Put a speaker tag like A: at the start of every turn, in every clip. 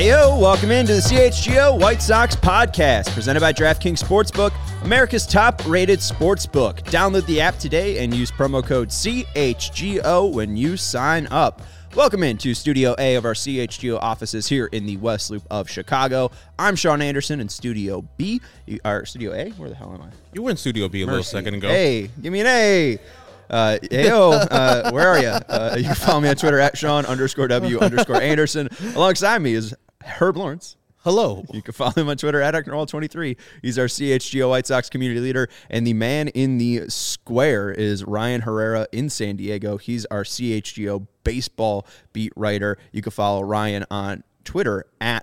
A: Heyo, welcome into the CHGO White Sox podcast, presented by DraftKings Sportsbook, America's top-rated sportsbook. Download the app today and use promo code CHGO when you sign up. Welcome into Studio A of our CHGO offices here in the West Loop of Chicago. I'm Sean Anderson in Studio B. Studio A? Where the hell am I?
B: You were in Studio B a little second ago.
A: Hey, give me an A. Heyo, where are you? You can follow me on Twitter at Sean_W_Anderson. Alongside me is Herb Lawrence.
B: Hello.
A: You can follow him on Twitter at Ecknerall23. He's our CHGO White Sox community leader. And the man in the square is Ryan Herrera in San Diego. He's our CHGO baseball beat writer. You can follow Ryan on Twitter at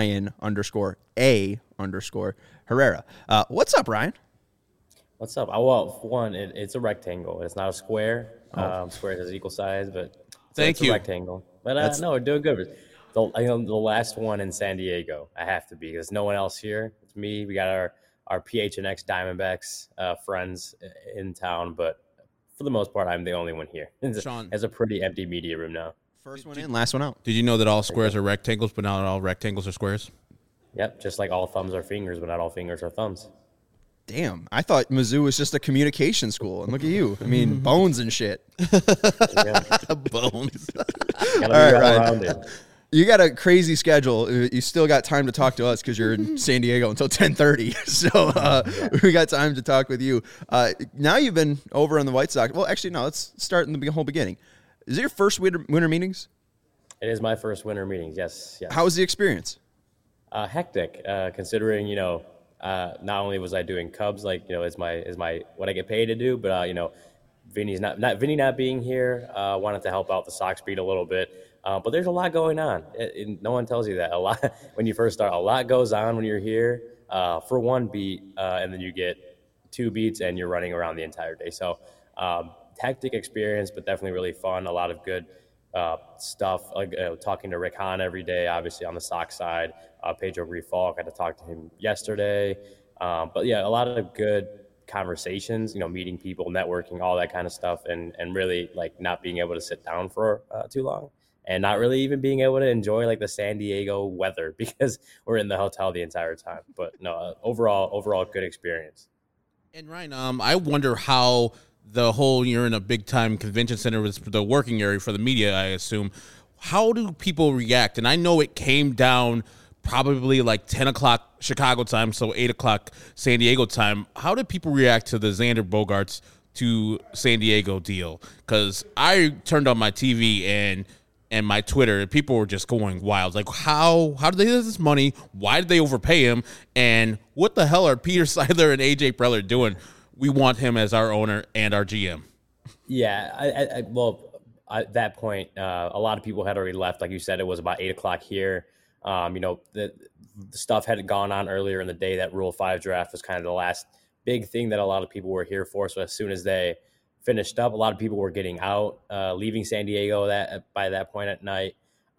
A: Ryan_A_Herrera. What's up, Ryan?
C: What's up? Well, one, it's a rectangle. It's not a square. Square has equal size, but it's a rectangle. But no, we're doing good. The last one in San Diego, I have to be, because no one else here. It's me. We got our PHNX Diamondbacks friends in town, but for the most part, I'm the only one here.
B: Sean,
C: it's a pretty empty media room now.
A: First one in, last one out.
B: Did you know that all squares are rectangles, but not all rectangles are squares?
C: Yep, just like all thumbs are fingers, but not all fingers are thumbs.
A: Damn, I thought Mizzou was just a communication school, and look at you. I mean, bones and shit.
B: Bones.
A: All right, Ryan. You got a crazy schedule. You still got time to talk to us because you're in San Diego until 10:30. So we got time to talk with you. Now you've been over on the White Sox. Well, actually, no. Let's start in the whole beginning. Is it your first winter meetings?
C: It is my first winter meetings. Yes.
A: How was the experience?
C: Hectic, considering not only was I doing Cubs, is my what I get paid to do, but Vinny not being here, wanted to help out the Sox beat a little bit. But there's a lot going on. No one tells you that. A lot when you first start. A lot goes on when you're here for one beat, and then you get two beats, and you're running around the entire day. So hectic experience, but definitely really fun. A lot of good stuff. Like talking to Rick Hahn every day, obviously on the Sox side. Pedro Grifol, got to talk to him yesterday. But yeah, a lot of good conversations. Meeting people, networking, all that kind of stuff, and really not being able to sit down for too long. And not really even being able to enjoy the San Diego weather because we're in the hotel the entire time. But no, overall good experience.
B: And Ryan, I wonder how the whole you're in a big time convention center was the working area for the media, I assume. How do people react? And I know it came down probably 10 o'clock Chicago time, so 8 o'clock San Diego time. How did people react to the Xander Bogaerts to San Diego deal? Because I turned on my TV and my Twitter, people were just going wild. How did they get this money? Why did they overpay him? And what the hell are Peter Seidler and AJ Preller doing? We want him as our owner and our GM.
C: Yeah, at that point, a lot of people had already left. Like you said, it was about 8 o'clock here. The stuff had gone on earlier in the day. That Rule 5 draft was kind of the last big thing that a lot of people were here for. So as soon as they finished up, a lot of people were getting out, leaving San Diego by that point at night.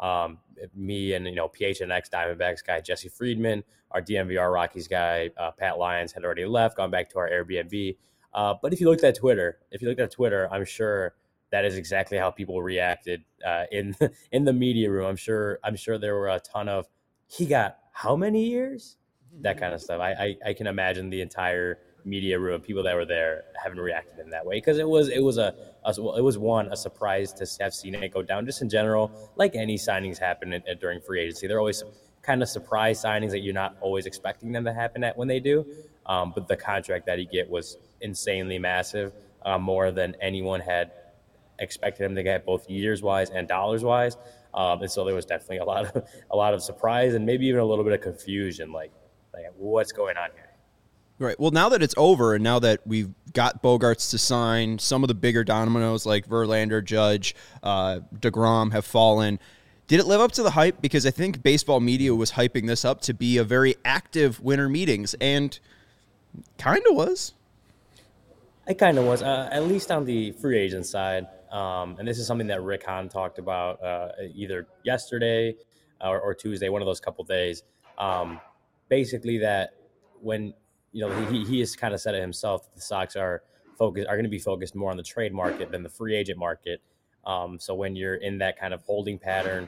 C: Me and PHNX Diamondbacks guy Jesse Friedman, our DMVR Rockies guy Pat Lyons had already left, gone back to our Airbnb. But if you looked at Twitter, I'm sure that is exactly how people reacted in the media room. I'm sure there were a ton of he got how many years, that kind of stuff. I can imagine the entire media room, people that were there having reacted in that way, because it was a surprise to have seen it go down. Just in general, like any signings happen during free agency, they're always kind of surprise signings that you're not always expecting them to happen when they do. But the contract that he get was insanely massive, more than anyone had expected him to get, both years wise and dollars wise. And so there was definitely a lot of surprise and maybe even a little bit of confusion, like what's going on here.
A: Right. Well, now that it's over and now that we've got Bogaerts to sign, some of the bigger dominoes like Verlander, Judge, DeGrom have fallen. Did it live up to the hype? Because I think baseball media was hyping this up to be a very active winter meetings, and kind of was.
C: It kind of was, at least on the free agent side. And this is something that Rick Hahn talked about either yesterday or Tuesday, one of those couple days. Basically that when he has kind of said it himself, that the Sox are going to be focused more on the trade market than the free agent market. So when you're in that kind of holding pattern,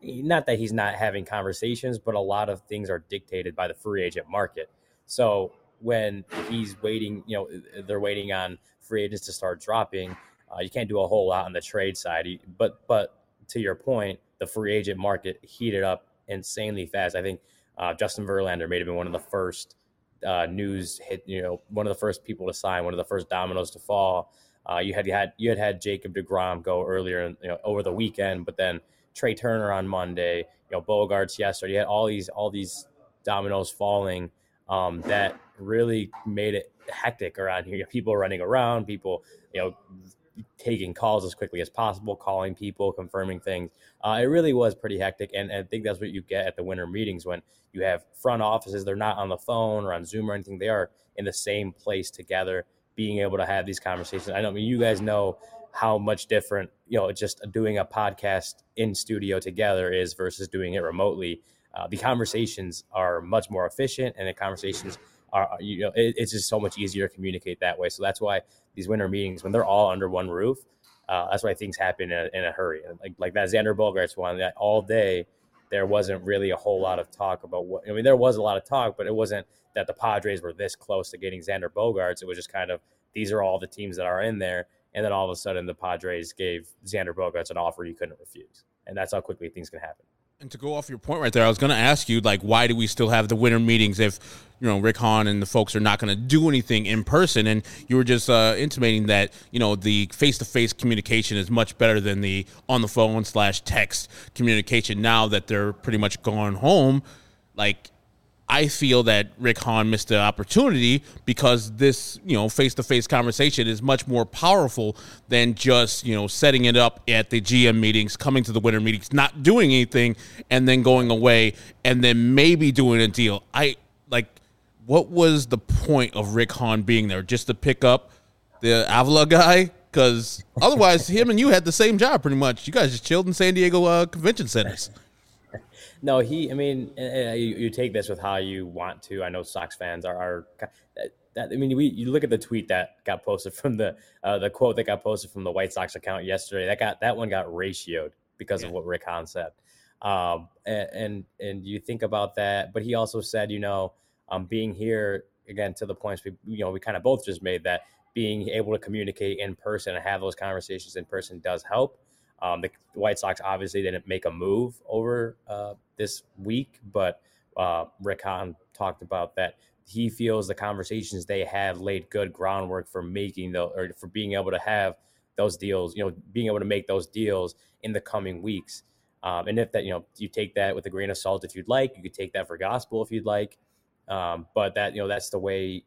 C: not that he's not having conversations, but a lot of things are dictated by the free agent market. So when he's waiting, they're waiting on free agents to start dropping. You can't do a whole lot on the trade side. But to your point, the free agent market heated up insanely fast. I think Justin Verlander may have been one of the first news hit, one of the first people to sign, one of the first dominoes to fall. You had Jacob deGrom go earlier, over the weekend, but then Trey Turner on Monday, Bogarts yesterday. You had all these dominoes falling that really made it hectic around here. People running around, people, taking calls as quickly as possible, calling people, confirming things. It really was pretty hectic. And I think that's what you get at the winter meetings when you have front offices. They're not on the phone or on Zoom or anything. They are in the same place together, being able to have these conversations. I mean, you guys know how much different, just doing a podcast in studio together is versus doing it remotely. The conversations are much more efficient, and the conversations are, it's just so much easier to communicate that way. So that's why these winter meetings, when they're all under one roof, that's why things happen in a hurry. Like that Xander Bogaerts one, that all day there wasn't really a whole lot of talk about what. I mean, there was a lot of talk, but it wasn't that the Padres were this close to getting Xander Bogaerts. It was just kind of, these are all the teams that are in there. And then all of a sudden the Padres gave Xander Bogaerts an offer you couldn't refuse. And that's how quickly things can happen.
B: And to go off your point right there, I was going to ask you, why do we still have the winter meetings if, Rick Hahn and the folks are not going to do anything in person? And you were just intimating that, the face-to-face communication is much better than the on-the-phone / text communication now that they're pretty much gone home. I feel that Rick Hahn missed the opportunity because this, face-to-face conversation is much more powerful than just, setting it up at the GM meetings, coming to the winter meetings, not doing anything, and then going away, and then maybe doing a deal. What was the point of Rick Hahn being there? Just to pick up the Avila guy? Because otherwise, him and you had the same job pretty much. You guys just chilled in San Diego convention centers.
C: No, you take this with how you want to. I know Sox fans are you look at the tweet that got posted from the quote that got posted from the White Sox account yesterday. That one got ratioed because of what Rick Hahn said. And you think about that, but he also said, being here again to the points we kind of both just made, that being able to communicate in person and have those conversations in person does help. The White Sox obviously didn't make a move over this week, but Rick Hahn talked about that. He feels the conversations they had laid good groundwork for for being able to have those deals, being able to make those deals in the coming weeks. And if that, you take that with a grain of salt, if you'd like, you could take that for gospel if you'd like. But that, that's the way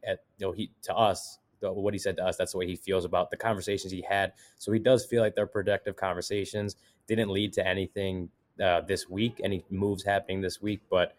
C: what he said to us, that's the way he feels about the conversations he had. So he does feel like they're productive conversations. Didn't lead to anything this week, any moves happening this week. But,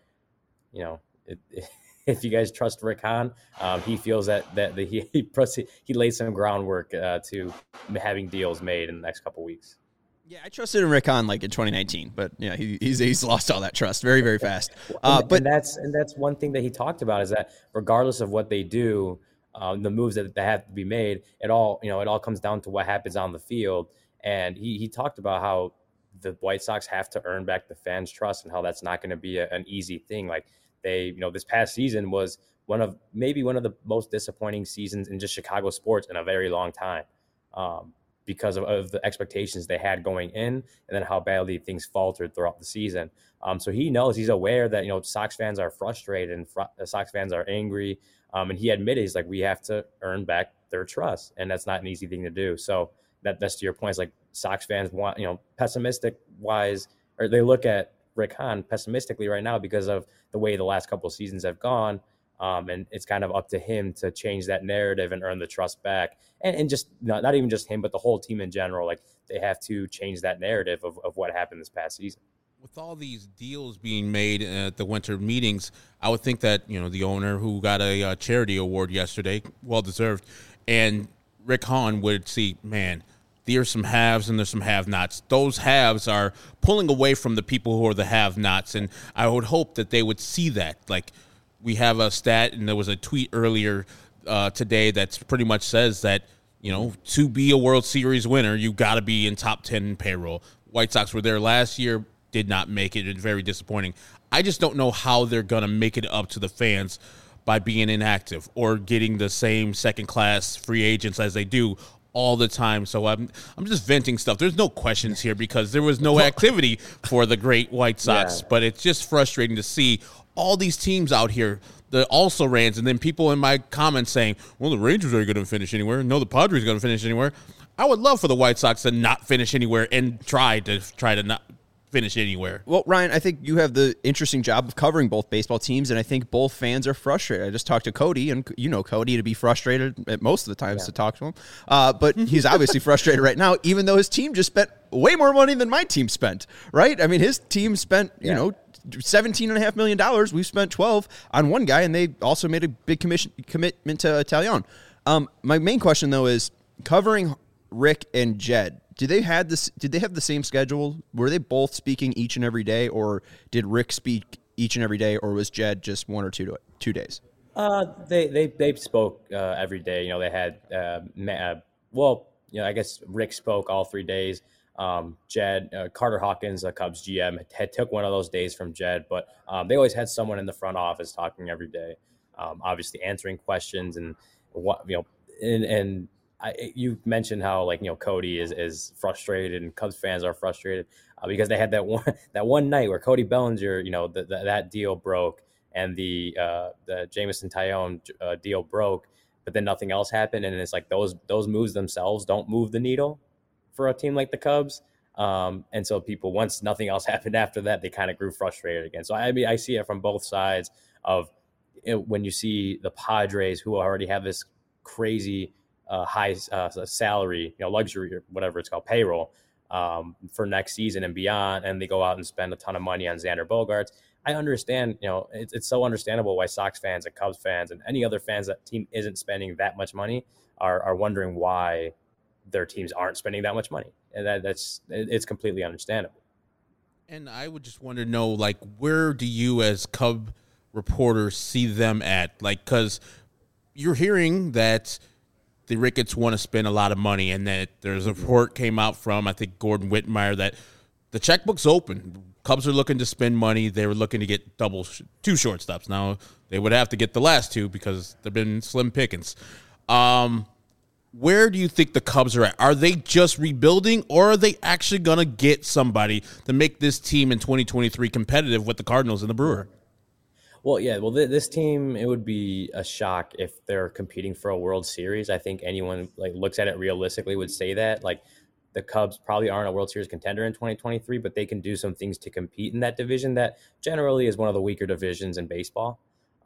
C: if you guys trust Rick Hahn, he feels that he laid some groundwork to having deals made in the next couple of weeks.
A: Yeah, I trusted in Rick Hahn in 2019, but yeah, he's lost all that trust very, very fast. But
C: that's one thing that he talked about, is that regardless of what they do, the moves that have to be made, it all comes down to what happens on the field. And he talked about how the White Sox have to earn back the fans' trust, and how that's not going to be an easy thing. Like they, this past season was one of the most disappointing seasons in just Chicago sports in a very long time. Because of the expectations they had going in, and then how badly things faltered throughout the season. So he's aware that, Sox fans are frustrated and Sox fans are angry. And he admitted, he's like, we have to earn back their trust. And that's not an easy thing to do. So that's to your point. It's like Sox fans want, pessimistic wise, or they look at Rick Hahn pessimistically right now because of the way the last couple of seasons have gone. And it's kind of up to him to change that narrative and earn the trust back. And just not even just him, but the whole team in general. Like they have to change that narrative of what happened this past season.
B: With all these deals being made at the winter meetings, I would think that, the owner who got a charity award yesterday, well-deserved, and Rick Hahn would see, man, there's some haves and there's some have-nots. Those haves are pulling away from the people who are the have-nots, and I would hope that they would see that. Like, we have a stat, and there was a tweet earlier today that pretty much says that, to be a World Series winner, you got to be in top 10 in payroll. White Sox were there last year, did not make it. It's very disappointing. I just don't know how they're going to make it up to the fans by being inactive or getting the same second-class free agents as they do all the time. So I'm just venting stuff. There's no questions here because there was no activity for the great White Sox, but it's just frustrating to see all these teams out here, the also-rans, and then people in my comments saying, well, the Rangers are going to finish anywhere. No, the Padres are going to finish anywhere. I would love for the White Sox to not finish anywhere and try to not finish anywhere.
A: Well, Ryan, I think you have the interesting job of covering both baseball teams, and I think both fans are frustrated. I just talked to Cody, and you know Cody to be frustrated at most of the times to talk to him. But he's obviously frustrated right now, even though his team just spent way more money than my team spent, right? I mean, his team spent, you know, $17.5 million. We've spent 12 on one guy, and they also made a big commitment to Talion. My main question, though, is covering Rick and Jed. Did they have the same schedule? Were they both speaking each and every day, or did Rick speak each and every day, or was Jed just 1 or 2 days?
C: They spoke every day. You know, they had I guess Rick spoke all 3 days. Jed, Carter Hawkins, the Cubs GM, took one of those days from Jed, but they always had someone in the front office talking every day, obviously answering questions and what, you know, you mentioned how, like, you know, Cody is frustrated and Cubs fans are frustrated because they had that one night where Cody Bellinger, you know, that deal broke and the Jameson Taillon deal broke, but then nothing else happened, and it's like those moves themselves don't move the needle for a team like the Cubs. And so people, once nothing else happened after that, they kind of grew frustrated again. So I mean, I see it from both sides of when you see the Padres, who already have this crazy high salary, you know, luxury or whatever it's called, payroll for next season and beyond, and they go out and spend a ton of money on Xander Bogaerts. I understand, you know, it's so understandable why Sox fans and Cubs fans and any other fans that team isn't spending that much money are wondering why their teams aren't spending that much money, and it's completely understandable.
B: And I would just want to know, like, where do you as Cub reporters see them at? Like, because you're hearing that the Ricketts want to spend a lot of money, and that there's a report came out from, I think, Gordon Wittenmyer, that the checkbook's open. Cubs are looking to spend money. They were looking to get 2 shortstops. Now, they would have to get the last 2 because they've been slim pickings. Where do you think the Cubs are at? Are they just rebuilding, or are they actually going to get somebody to make this team in 2023 competitive with the Cardinals and the Brewers?
C: Well, yeah. Well, this team, it would be a shock if they're competing for a World Series. I think anyone looks at it realistically would say that. Like, the Cubs probably aren't a World Series contender in 2023, but they can do some things to compete in that division that generally is one of the weaker divisions in baseball.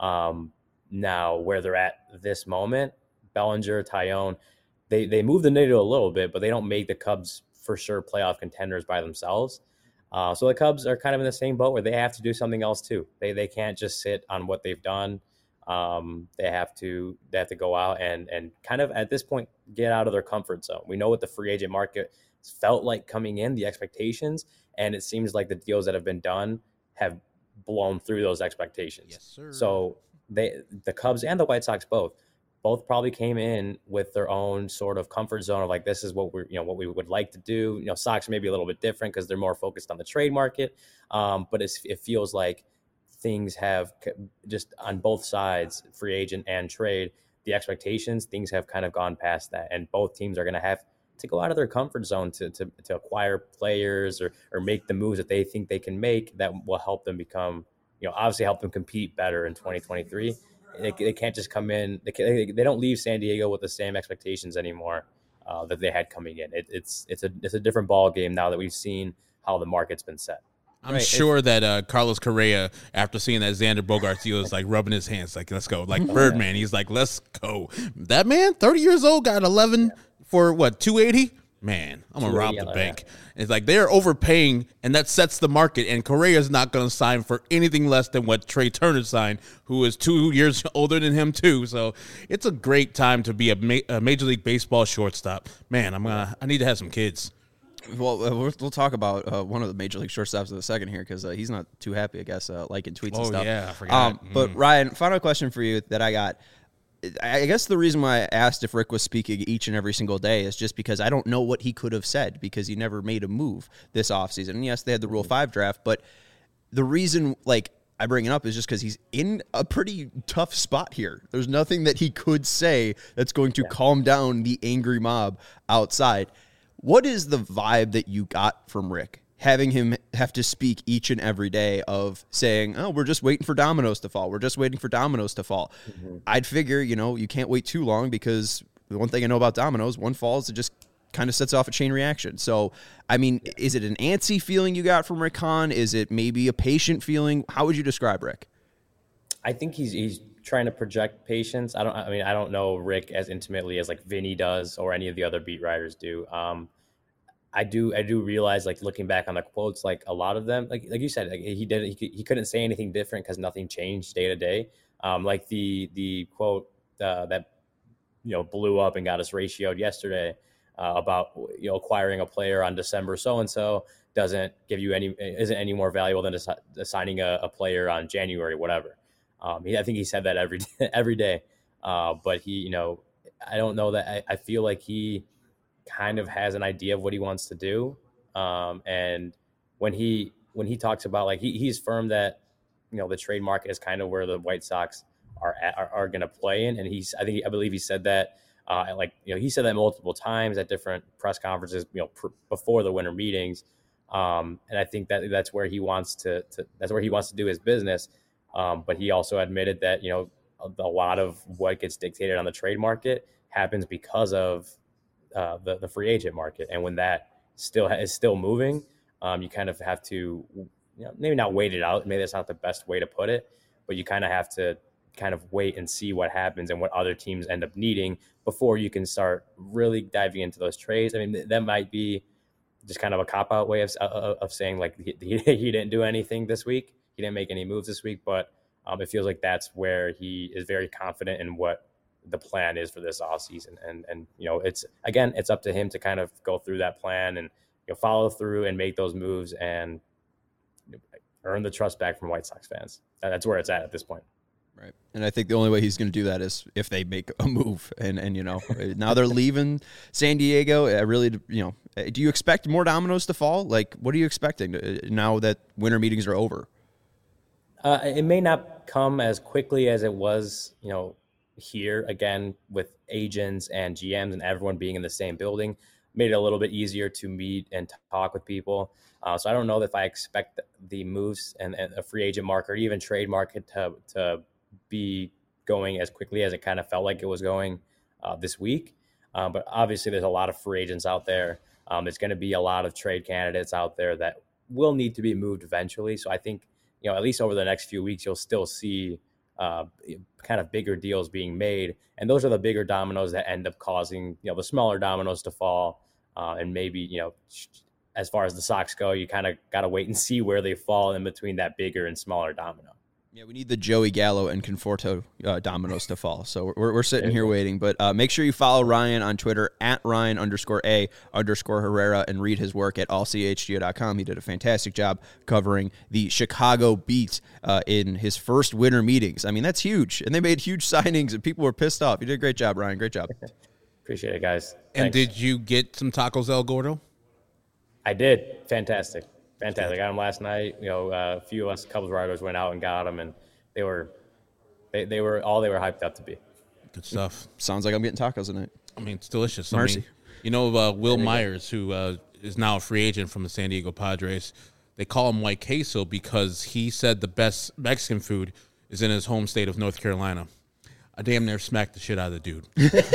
C: Now, where they're at this moment, Bellinger, Taillon, they move the needle a little bit, but they don't make the Cubs for sure playoff contenders by themselves. So the Cubs are kind of in the same boat where they have to do something else too. They can't just sit on what they've done. They have to go out and kind of at this point get out of their comfort zone. We know what the free agent market felt like coming in, the expectations, and it seems like the deals that have been done have blown through those expectations. Yes, sir. So the Cubs and the White Sox both probably came in with their own sort of comfort zone of like, this is what what we would like to do. You know, Sox may be a little bit different because they're more focused on the trade market. But it feels like things have just on both sides, free agent and trade, the expectations, things have kind of gone past that. And both teams are going to have to go out of their comfort zone to acquire players or make the moves that they think they can make that will help them become, obviously help them compete better in 2023. They can't just come in. They don't leave San Diego with the same expectations anymore that they had coming in. It's a different ball game now that we've seen how the market's been set.
B: I'm sure that Carlos Correa, after seeing that Xander Bogaerts deal, is like rubbing his hands, like, let's go. Like Birdman, he's like, let's go. That man, 30 years old, got 11 for what, 280? Man, I'm going to rob the bank. Yeah. It's like they're overpaying, and that sets the market, and Correa's not going to sign for anything less than what Trey Turner signed, who is 2 years older than him, too. So it's a great time to be a Major League Baseball shortstop. Man, I need to have some kids.
A: Well, we'll talk about one of the Major League shortstops in a second here because he's not too happy, I guess, liking tweets and stuff.
B: Oh, yeah, I forgot.
A: But, Ryan, final question for you that I got. I guess the reason why I asked if Rick was speaking each and every single day is just because I don't know what he could have said because he never made a move this offseason. And yes, they had the Rule 5 draft, but the reason, like, I bring it up is just because he's in a pretty tough spot here. There's nothing that he could say that's going to calm down the angry mob outside. What is the vibe that you got from Rick, having him have to speak each and every day of saying, oh, we're just waiting for dominoes to fall. We're just waiting for dominoes to fall. I'd figure, you can't wait too long because the one thing I know about dominoes, one falls, it just kind of sets off a chain reaction. So, I mean, is it an antsy feeling you got from Rick Hahn? Is it maybe a patient feeling? How would you describe Rick?
C: I think he's trying to project patience. I don't know Rick as intimately as like Vinny does or any of the other beat writers do. I do realize, like, looking back on the quotes, like a lot of them, like you said, like he couldn't say anything different because nothing changed day to day. Like the quote that blew up and got us ratioed yesterday about acquiring a player on December so-and-so isn't any more valuable than assigning a player on January whatever. I think he said that every day, but he I don't know that I feel like he kind of has an idea of what he wants to do, and when he talks about, like, he's firm that the trade market is kind of where the White Sox are going to play in, and I believe he said that. He said that multiple times at different press conferences, before the winter meetings. And I think that's where he wants to do his business. But he also admitted that, a lot of what gets dictated on the trade market happens because of the free agent market. And when that is still moving, you kind of have to, maybe not wait it out. Maybe that's not the best way to put it, but you kind of have to wait and see what happens and what other teams end up needing before you can start really diving into those trades. I mean, that might be just kind of a cop-out way of saying, like, he didn't do anything this week. He didn't make any moves this week, but it feels like that's where he is very confident in what the plan is for this offseason. And it's up to him to kind of go through that plan and follow through and make those moves and earn the trust back from White Sox fans. That's where it's at this point.
A: Right. And I think the only way he's going to do that is if they make a move. And now they're leaving San Diego. Do you expect more dominoes to fall? Like, what are you expecting now that winter meetings are over?
C: It may not come as quickly as it was, here, again, with agents and GMs and everyone being in the same building. Made it a little bit easier to meet and talk with people. So I don't know if I expect the moves and a free agent market or even trade market to be going as quickly as it kind of felt like it was going this week. But obviously there's a lot of free agents out there. There's going to be a lot of trade candidates out there that will need to be moved eventually. So I think, at least over the next few weeks, you'll still see kind of bigger deals being made. And those are the bigger dominoes that end up causing, the smaller dominoes to fall. And maybe, as far as the Sox go, you kind of got to wait and see where they fall in between that bigger and smaller domino.
A: Yeah, we need the Joey Gallo and Conforto dominoes to fall. So we're sitting here waiting. But make sure you follow Ryan on Twitter at Ryan_A_Herrera and read his work at allchgo.com. He did a fantastic job covering the Chicago beat in his first winter meetings. I mean, that's huge. And they made huge signings and people were pissed off. You did a great job, Ryan. Great job.
C: Appreciate it, guys.
B: And
C: Thanks.
B: Did you get some tacos El Gordo?
C: I did. Fantastic. I got them last night. A few of us, a couple of riders went out and got them, and they were all they were hyped up to be.
B: Good stuff.
A: Sounds like I'm getting tacos tonight.
B: I mean, it's delicious.
A: Mercy.
B: Will Myers, who is now a free agent from the San Diego Padres, they call him White Queso because he said the best Mexican food is in his home state of North Carolina. I damn near smacked the shit out of the dude.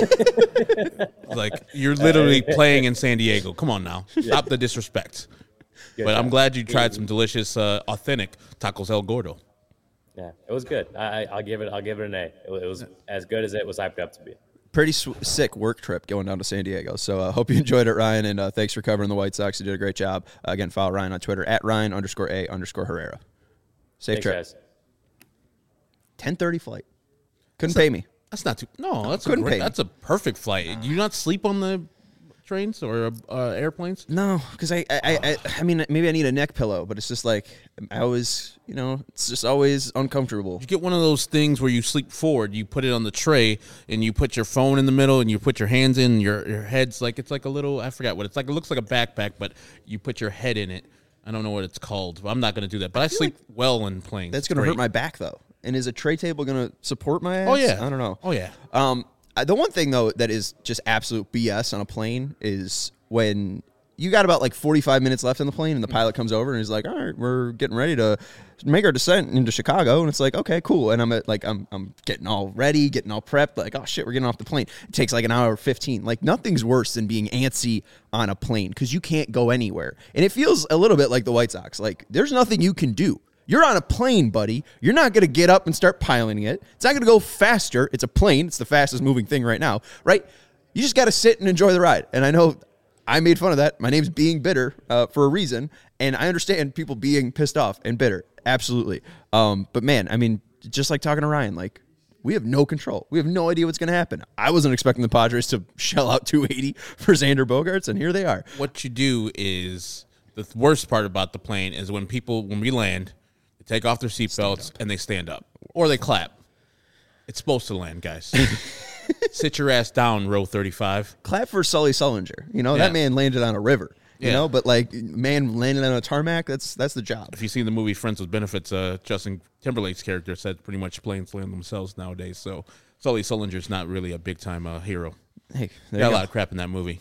B: Like, you're literally playing in San Diego. Come on now. Stop the disrespect. But I'm glad you tried some delicious, authentic tacos El Gordo.
C: Yeah, it was good. I'll give it an A. It was as good as it was hyped up to be.
A: Pretty sick work trip going down to San Diego. So I hope you enjoyed it, Ryan, and thanks for covering the White Sox. You did a great job. Again, follow Ryan on Twitter at Ryan_A_Herrera. Safe trip.
C: Guys.
A: 10:30 flight. Couldn't pay me.
B: That's not too. No, that's
A: Couldn't pay me.
B: That's a perfect flight. Do you not sleep on the trains or airplanes?
A: No, because I mean, maybe I need a neck pillow, but it's just like I always, it's just always uncomfortable.
B: You get one of those things where you sleep forward. You put it on the tray, and you put your phone in the middle, and you put your hands in. Your head's like it's like a little. I forgot what it's like. It looks like a backpack, but you put your head in it. I don't know what it's called. I'm not going to do that. But I sleep well in planes.
A: That's going to hurt my back though. And is a tray table going to support my ass?
B: Oh yeah.
A: I don't know.
B: Oh yeah.
A: The one thing though that is just absolute BS on a plane is when you got about like 45 minutes left on the plane and the pilot comes over and he's like, all right, we're getting ready to make our descent into Chicago. And it's like, okay, cool. And I'm getting all ready, getting all prepped. Like, oh shit, we're getting off the plane. It takes like an hour or 15. Like nothing's worse than being antsy on a plane because you can't go anywhere. And it feels a little bit like the White Sox. Like there's nothing you can do. You're on a plane, buddy. You're not going to get up and start piloting it. It's not going to go faster. It's a plane. It's the fastest moving thing right now, right? You just got to sit and enjoy the ride. And I know I made fun of that. My name's Being Bitter for a reason, and I understand people being pissed off and bitter. Absolutely. But, man, I mean, just like talking to Ryan, like, we have no control. We have no idea what's going to happen. I wasn't expecting the Padres to shell out $280 for Xander Bogaerts, and here they are.
B: What you do is the worst part about the plane is when we land – take off their seatbelts and they stand up. Or they clap. It's supposed to land, guys. Sit your ass down, row 35.
A: Clap for Sully Sullinger. That man landed on a river. You know, but like man landing on a tarmac, that's the job.
B: If you see the movie Friends with Benefits, Justin Timberlake's character said pretty much planes land themselves nowadays. So Sully Sullinger's not really a big time hero.
A: Hey,
B: got a lot of crap in that movie.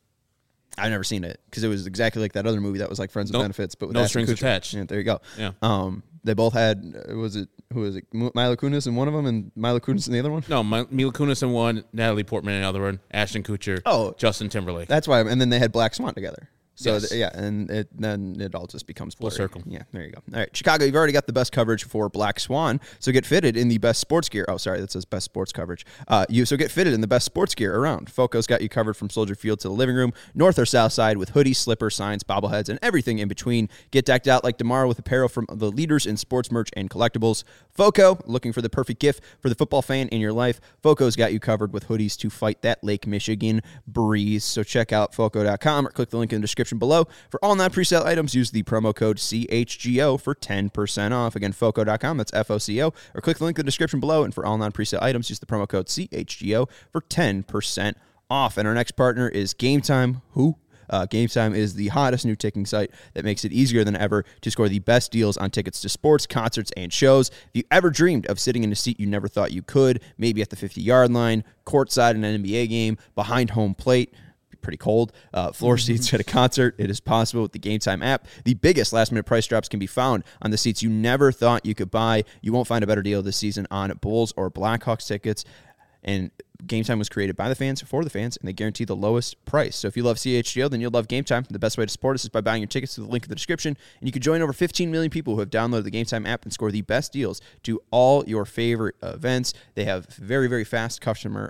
A: I've never seen it because it was exactly like that other movie that was like Friends with Benefits, but with
B: no strings attached.
A: Yeah, there you go.
B: Yeah.
A: They both had who was it? Mila Kunis in one of them, and Mila Kunis in the other one.
B: No, Mila Kunis in one, Natalie Portman in the other one, Ashton Kutcher, Justin Timberlake.
A: That's why. And then they had Black Swan together. So,
B: yes.
A: And then it all just becomes blurry.
B: Full circle.
A: Yeah, there you go. All right, Chicago, you've already got the best coverage for Black Swan, so get fitted in the best sports gear. Oh, sorry, that says best sports coverage. So get fitted in the best sports gear around. Foco's got you covered from Soldier Field to the living room, north or south side, with hoodies, slippers, signs, bobbleheads, and everything in between. Get decked out like tomorrow with apparel from the leaders in sports merch and collectibles. Foco, looking for the perfect gift for the football fan in your life. Foco's got you covered with hoodies to fight that Lake Michigan breeze. So check out Foco.com or click the link in the description below. For all non-presale items, use the promo code CHGO for 10% off. Again, Foco.com, that's F-O-C-O, or click the link in the description below. And for all non-presale items, use the promo code CHGO for 10% off. And our next partner is Game Time. Game Time is the hottest new ticketing site that makes it easier than ever to score the best deals on tickets to sports, concerts, and shows. If you ever dreamed of sitting in a seat you never thought you could, maybe at the 50-yard line, courtside in an NBA game, behind home plate, pretty cold, floor seats at a concert, it is possible with the Game Time app. The biggest last-minute price drops can be found on the seats you never thought you could buy. You won't find a better deal this season on Bulls or Blackhawks tickets. And Game Time was created by the fans for the fans, and they guarantee the lowest price. So if you love CHGO, then you'll love Game Time. The best way to support us is by buying your tickets through the link in the description, and you can join over 15 million people who have downloaded the Game Time app and score the best deals to all your favorite events. They have very, very fast customer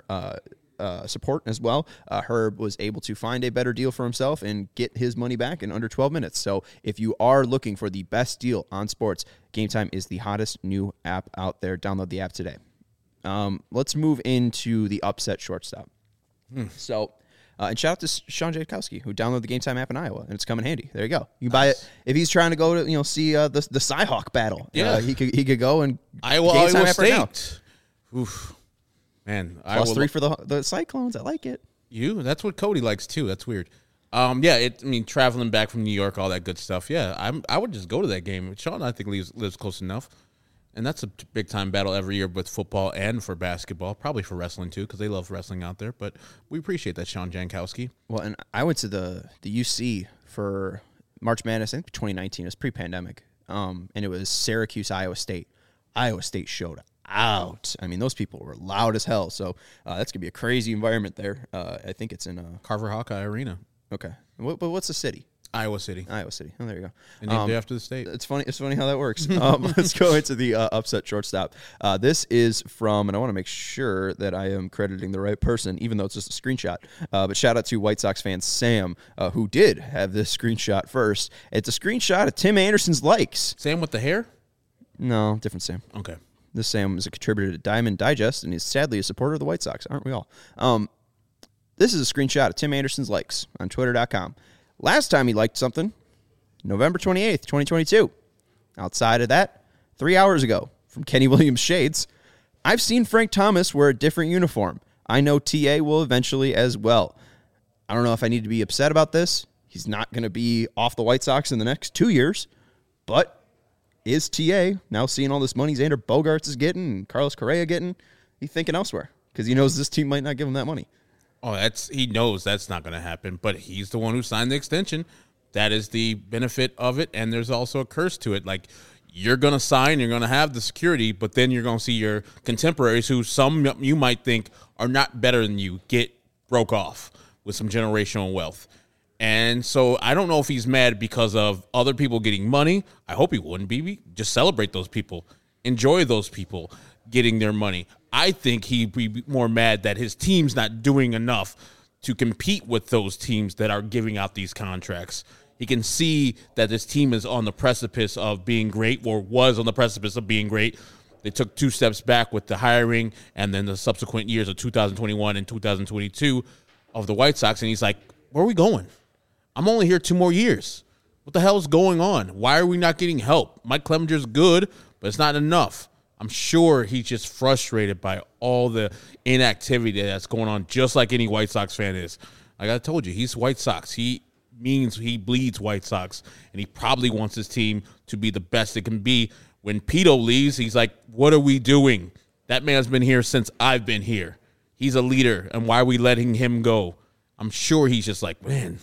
A: support as well. Herb was able to find a better deal for himself and get his money back in under 12 minutes. So if you are looking for the best deal on sports, Game Time is the hottest new app out there. Download the app today. Let's move into the upset shortstop. So, and shout out to Sean Jankowski, who downloaded the Game Time app in Iowa, and it's coming handy. There you go. You can buy it if he's trying to go to see the Cy-Hawk battle.
B: Yeah,
A: he could go and
B: Iowa State. Right. Oof. Man,
A: +3 for the Cyclones. I like it.
B: That's what Cody likes too. That's weird. Traveling back from New York, all that good stuff. Yeah, I would just go to that game. Sean, I think, lives close enough, and that's a big time battle every year with football and for basketball, probably for wrestling too, because they love wrestling out there. But we appreciate that, Sean Jankowski.
A: Well, and I went to the UC for March Madness. I think 2019. It was pre-pandemic, and it was Syracuse, Iowa State. Iowa State showed out. I mean, those people were loud as hell. So that's gonna be a crazy environment there. I think it's in
B: Carver Hawkeye Arena.
A: Okay, but what's the city?
B: Iowa City.
A: Oh, there you go.
B: And named after the state.
A: It's funny how that works. Let's go into the upset shortstop. This is from, and I want to make sure that I am crediting the right person, even though it's just a screenshot. But shout out to White Sox fan Sam, who did have this screenshot first. It's a screenshot of Tim Anderson's likes.
B: Sam with the hair?
A: No, different Sam.
B: Okay.
A: This Sam is a contributor to Diamond Digest, and he's sadly a supporter of the White Sox, aren't we all? This is a screenshot of Tim Anderson's likes on Twitter.com. Last time he liked something, November 28th, 2022. Outside of that, 3 hours ago, from Kenny Williams Shades, I've seen Frank Thomas wear a different uniform. I know TA will eventually as well. I don't know if I need to be upset about this. He's not going to be off the White Sox in the next 2 years, but is TA now seeing all this money Xander Bogaerts is getting and Carlos Correa getting? He's thinking elsewhere because he knows this team might not give him that money.
B: Oh, he knows that's not going to happen, but he's the one who signed the extension. That is the benefit of it, and there's also a curse to it. Like, you're going to sign, you're going to have the security, but then you're going to see your contemporaries who some you might think are not better than you get broke off with some generational wealth. And so I don't know if he's mad because of other people getting money. I hope he wouldn't be. Just celebrate those people. Enjoy those people getting their money. I think he'd be more mad that his team's not doing enough to compete with those teams that are giving out these contracts. He can see that this team is on the precipice of being great, or was on the precipice of being great. They took 2 steps back with the hiring and then the subsequent years of 2021 and 2022 of the White Sox. And he's like, where are we going? I'm only here 2 more years. What the hell is going on? Why are we not getting help? Mike Clemenger's good, but it's not enough. I'm sure he's just frustrated by all the inactivity that's going on, just like any White Sox fan is. Like I told you, he's White Sox. He bleeds White Sox, and he probably wants his team to be the best it can be. When Pito leaves, he's like, what are we doing? That man's been here since I've been here. He's a leader, and why are we letting him go? I'm sure he's just like, man,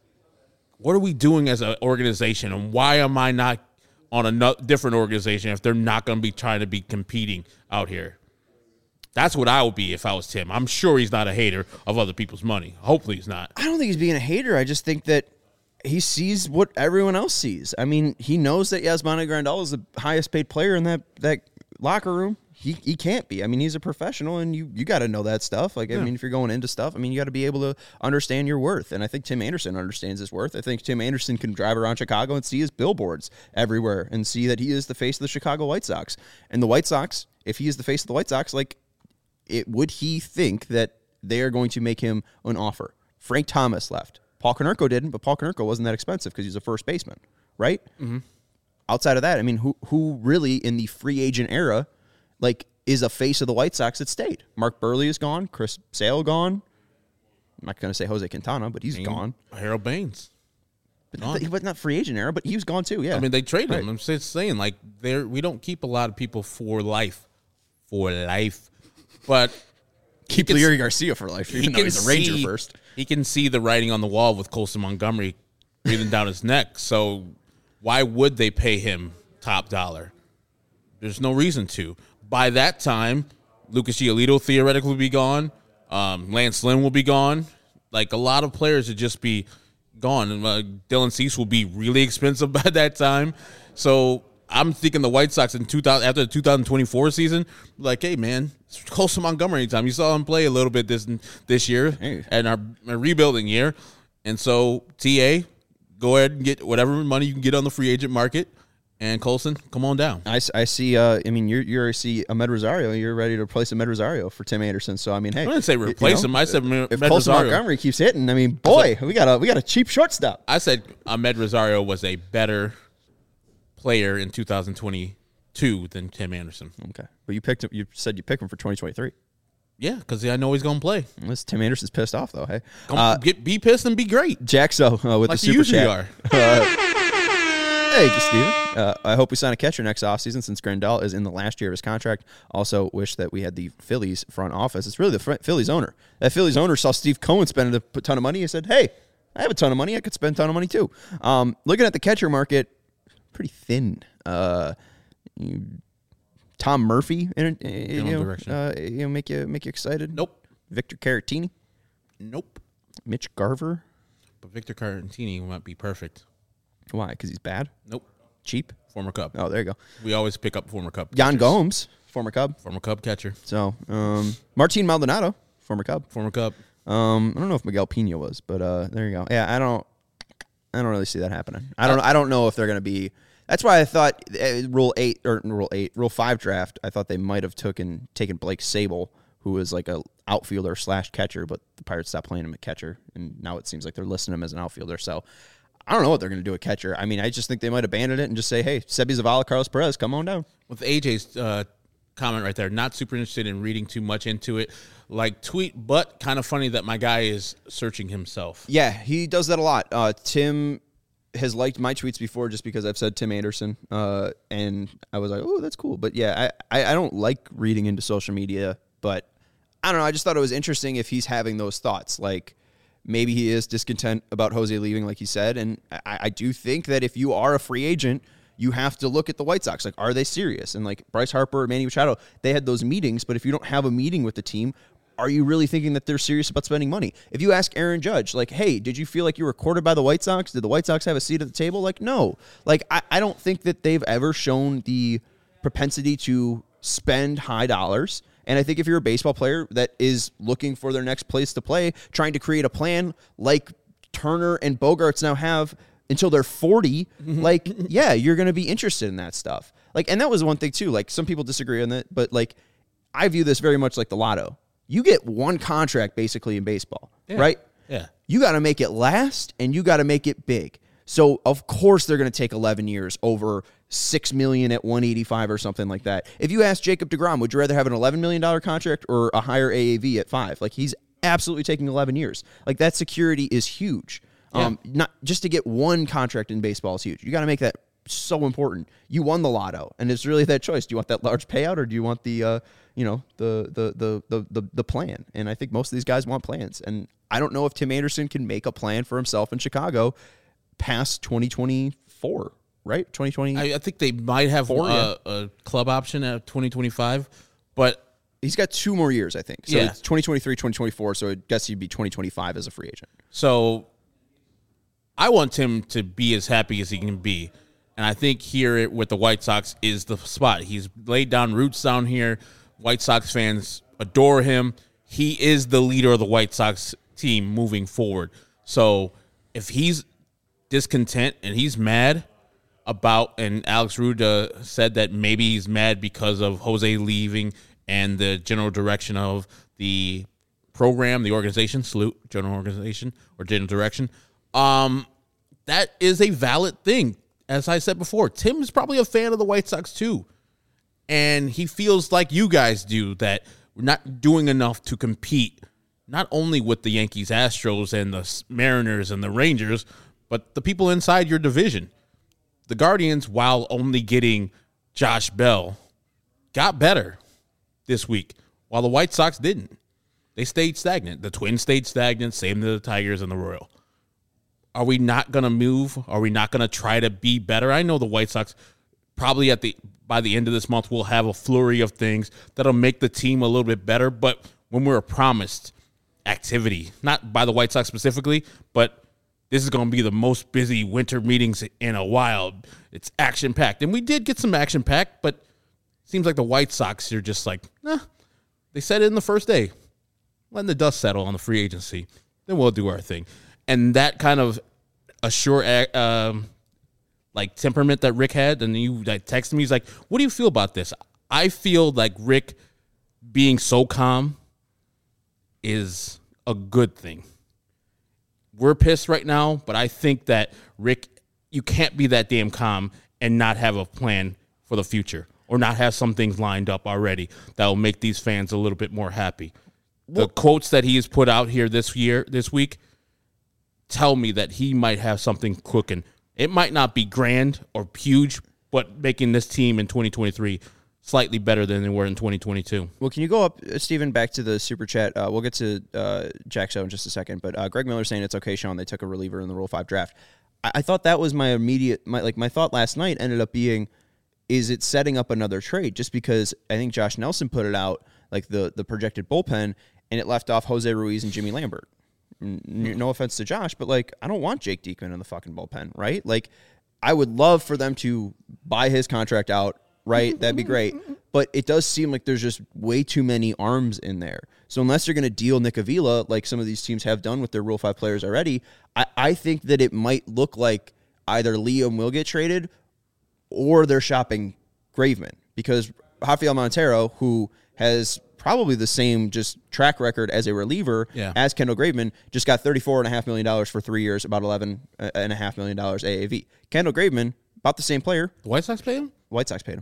B: what are we doing as an organization, and why am I not on a different organization if they're not going to be trying to be competing out here? That's what I would be if I was Tim. I'm sure he's not a hater of other people's money. Hopefully he's not.
A: I don't think he's being a hater. I just think that he sees what everyone else sees. I mean, he knows that Yasmani Grandal is the highest paid player in that locker room. He can't be. I mean, he's a professional, and you got to know that stuff. Like, I mean, if you're going into stuff, I mean, you got to be able to understand your worth. And I think Tim Anderson understands his worth. I think Tim Anderson can drive around Chicago and see his billboards everywhere and see that he is the face of the Chicago White Sox. And the White Sox, if he is the face of the White Sox, like, would he think that they are going to make him an offer? Frank Thomas left. Paul Konerko didn't, but Paul Konerko wasn't that expensive because he's a first baseman, right? Mm-hmm. Outside of that, I mean, who really in the free agent era, like, is a face of the White Sox that stayed? Mark Burley is gone. Chris Sale gone. I'm not going to say Jose Quintana, but he's gone.
B: Harold Baines.
A: But he was not free agent era, but he was gone too, yeah.
B: I mean, they traded him. I'm just saying, like, we don't keep a lot of people for life. But
A: keep Leury Garcia for life, even though he's a Ranger first.
B: He can see the writing on the wall with Colson Montgomery breathing down his neck. So why would they pay him top dollar? There's no reason to. By that time, Lucas Giolito theoretically will be gone. Lance Lynn will be gone. Like, a lot of players would just be gone. And Dylan Cease will be really expensive by that time. So I'm thinking the White Sox after the 2024 season, like, hey, man, it's Colson Montgomery anytime. You saw him play a little bit this year and our rebuilding year. And so, TA, go ahead and get whatever money you can get on the free agent market. And Colson, come on down.
A: I see. I mean, you see Ahmed Rosario. You're ready to replace Ahmed Rosario for Tim Anderson. So I mean, hey,
B: I didn't say replace him. I said
A: if Colson Montgomery keeps hitting, I mean, boy, we got a cheap shortstop.
B: I said Ahmed Rosario was a better player in 2022 than Tim Anderson.
A: Okay, but you picked him. You said you picked him for 2023.
B: Yeah, because I know he's going to play.
A: Unless Tim Anderson's pissed off, though. Hey,
B: be pissed and be great.
A: Jaxo with
B: like
A: the super chat.
B: Are.
A: Thank you, Steven. I hope we sign a catcher next offseason since Grandal is in the last year of his contract. Also wish that we had the Phillies front office. It's really the Phillies owner. That Phillies owner saw Steve Cohen spending a ton of money. He said, hey, I have a ton of money. I could spend a ton of money too. Looking at the catcher market, pretty thin. Tom Murphy, make you excited?
B: Nope.
A: Victor Caratini?
B: Nope.
A: Mitch Garver?
B: But Victor Caratini might be perfect.
A: Why? Because he's bad?
B: Nope.
A: Cheap?
B: Former Cub.
A: Oh, there you go.
B: We always pick up former Cub.
A: Jan Gomes, former Cub.
B: Former Cub catcher.
A: So, Martin Maldonado, former Cub.
B: Former Cub.
A: I don't know if Miguel Pena was, but there you go. Yeah, I don't really see that happening. I don't know if they're going to be. That's why I thought Rule 5 draft. I thought they might have taken Blake Sable, who was like a outfielder / catcher, but the Pirates stopped playing him at catcher, and now it seems like they're listing him as an outfielder. So I don't know what they're going to do at catcher. I mean, I just think they might abandon it and just say, hey, Sebi Zavala, Carlos Perez, come on down.
B: With AJ's comment right there, not super interested in reading too much into it. Like tweet, but kind of funny that my guy is searching himself.
A: Yeah, he does that a lot. Tim has liked my tweets before just because I've said Tim Anderson, and I was like, oh, that's cool. But yeah, I don't like reading into social media, but I don't know. I just thought it was interesting if he's having those thoughts. Like, maybe he is discontent about Jose leaving, like he said. And I do think that if you are a free agent, you have to look at the White Sox. Like, are they serious? And like Bryce Harper, Manny Machado, they had those meetings. But if you don't have a meeting with the team, are you really thinking that they're serious about spending money? If you ask Aaron Judge, like, hey, did you feel like you were courted by the White Sox? Did the White Sox have a seat at the table? Like, no. Like, I don't think that they've ever shown the propensity to spend high dollars. And I think if you're a baseball player that is looking for their next place to play, trying to create a plan like Turner and Bogarts now have until they're 40, like, yeah, you're going to be interested in that stuff. Like, and that was one thing too. Like, some people disagree on that, but like, I view this very much like the lotto. You get one contract basically in baseball, right?
B: Yeah.
A: You got to make it last and you got to make it big. So of course they're going to take 11 years over $6 million at 185 or something like that. If you ask Jacob deGrom, would you rather have an $11 million contract or a higher AAV at 5? Like, he's absolutely taking 11 years. Like, that security is huge.
B: Yeah.
A: Not just to get one contract in baseball is huge. You got to make that so important. You won the lotto, and it's really that choice. Do you want that large payout, or do you want the the plan? And I think most of these guys want plans. And I don't know if Tim Anderson can make a plan for himself in Chicago past 2024. Right? 2020.
B: I think they might have a club option at 2025, but
A: he's got 2 more years, I think. So
B: yeah.
A: It's 2023, 2024, so I guess he'd be 2025 as a free agent.
B: So I want Tim to be as happy as he can be. And I think here with the White Sox is the spot. He's laid down roots down here. White Sox fans adore him. He is the leader of the White Sox team moving forward. So if he's discontent and he's mad about, and Alex Ruda said that maybe he's mad because of Jose leaving and the general direction of the program, the organization, general organization or general direction. That is a valid thing. As I said before, Tim is probably a fan of the White Sox too. And he feels like you guys do, that we're not doing enough to compete, not only with the Yankees, Astros, and the Mariners and the Rangers, but the people inside your division. The Guardians, while only getting Josh Bell, got better this week, while the White Sox didn't. They stayed stagnant. The Twins stayed stagnant, same to the Tigers and the Royal. Are we not going to move? Are we not going to try to be better? I know the White Sox probably by the end of this month will have a flurry of things that'll make the team a little bit better, but when we're promised activity, not by the White Sox specifically, but this is going to be the most busy winter meetings in a while. It's action-packed. And we did get some action-packed, but it seems like the White Sox are just like, they said it in the first day. Letting the dust settle on the free agency. Then we'll do our thing. And that kind of temperament that Rick had, and you texted me, he's like, what do you feel about this? I feel like Rick being so calm is a good thing. We're pissed right now, but I think that, Rick, you can't be that damn calm and not have a plan for the future or not have some things lined up already that will make these fans a little bit more happy. The quotes that he has put out here this week, tell me that he might have something cooking. It might not be grand or huge, but making this team in 2023 slightly better than they were in 2022.
A: Well, can you go up, Steven, back to the Super Chat? We'll get to Jack Show in just a second, but Greg Miller saying it's okay, Sean, they took a reliever in the Rule 5 draft. I thought that was my thought last night ended up being, is it setting up another trade? Just because I think Josh Nelson put it out, like the projected bullpen, and it left off Jose Ruiz and Jimmy Lambert. No offense to Josh, but like, I don't want Jake Diekman in the fucking bullpen, right? Like, I would love for them to buy his contract out, right? That'd be great. But it does seem like there's just way too many arms in there. So unless you're going to deal Nick Avila, like some of these teams have done with their Rule 5 players already, I think that it might look like either Liam will get traded or they're shopping Graveman, because Rafael Montero, who has probably the same just track record as a reliever as Kendall Graveman, just got $34.5 million for 3 years, about $11.5 million AAV. Kendall Graveman, about the same player.
B: The White Sox paid him?
A: White Sox paid him.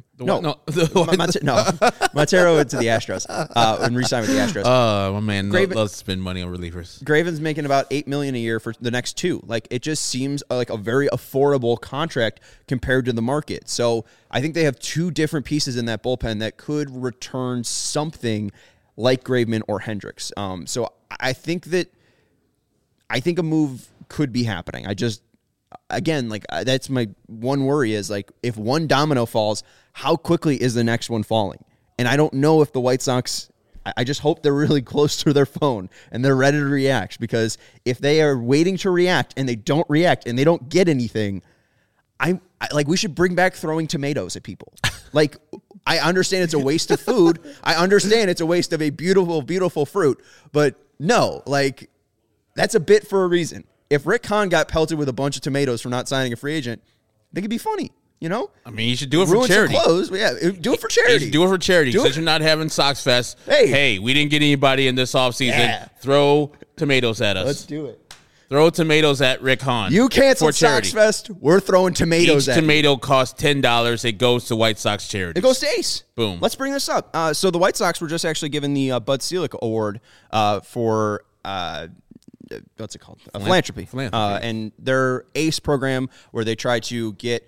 B: Montero
A: went to the Astros and re-signed with the Astros.
B: My man loves to spend money on relievers.
A: Graven's making about $8 million a year for the next 2. Like, it just seems like a very affordable contract compared to the market. So I think they have 2 different pieces in that bullpen that could return something like Graveman or Hendricks. So I think a move could be happening. Again, like, that's my one worry is, like, if one domino falls, how quickly is the next one falling? And I don't know if the White Sox, I just hope they're really close to their phone and they're ready to react, because if they are waiting to react and they don't react and they don't get anything, I like, we should bring back throwing tomatoes at people. Like, I understand it's a waste of food. I understand it's a waste of a beautiful, beautiful fruit, but no, like, that's a bit for a reason. If Rick Hahn got pelted with a bunch of tomatoes for not signing a free agent, I think it'd be funny, you know?
B: I mean, you should do it for charity.
A: Some clothes, yeah, do it for charity.
B: Do it for charity. Since you're not having Sox Fest, hey, we didn't get anybody in this offseason. Yeah. Throw tomatoes at us.
A: Let's do it.
B: Throw tomatoes at Rick Hahn.
A: You canceled Sox Fest, we're throwing tomatoes at you.
B: Each tomato costs $10. It goes to White Sox charity.
A: It goes to Ace.
B: Boom.
A: Let's bring this up. So the White Sox were just actually given the Bud Selig Award for what's it called? Philanthropy. And their ACE program, where they try to get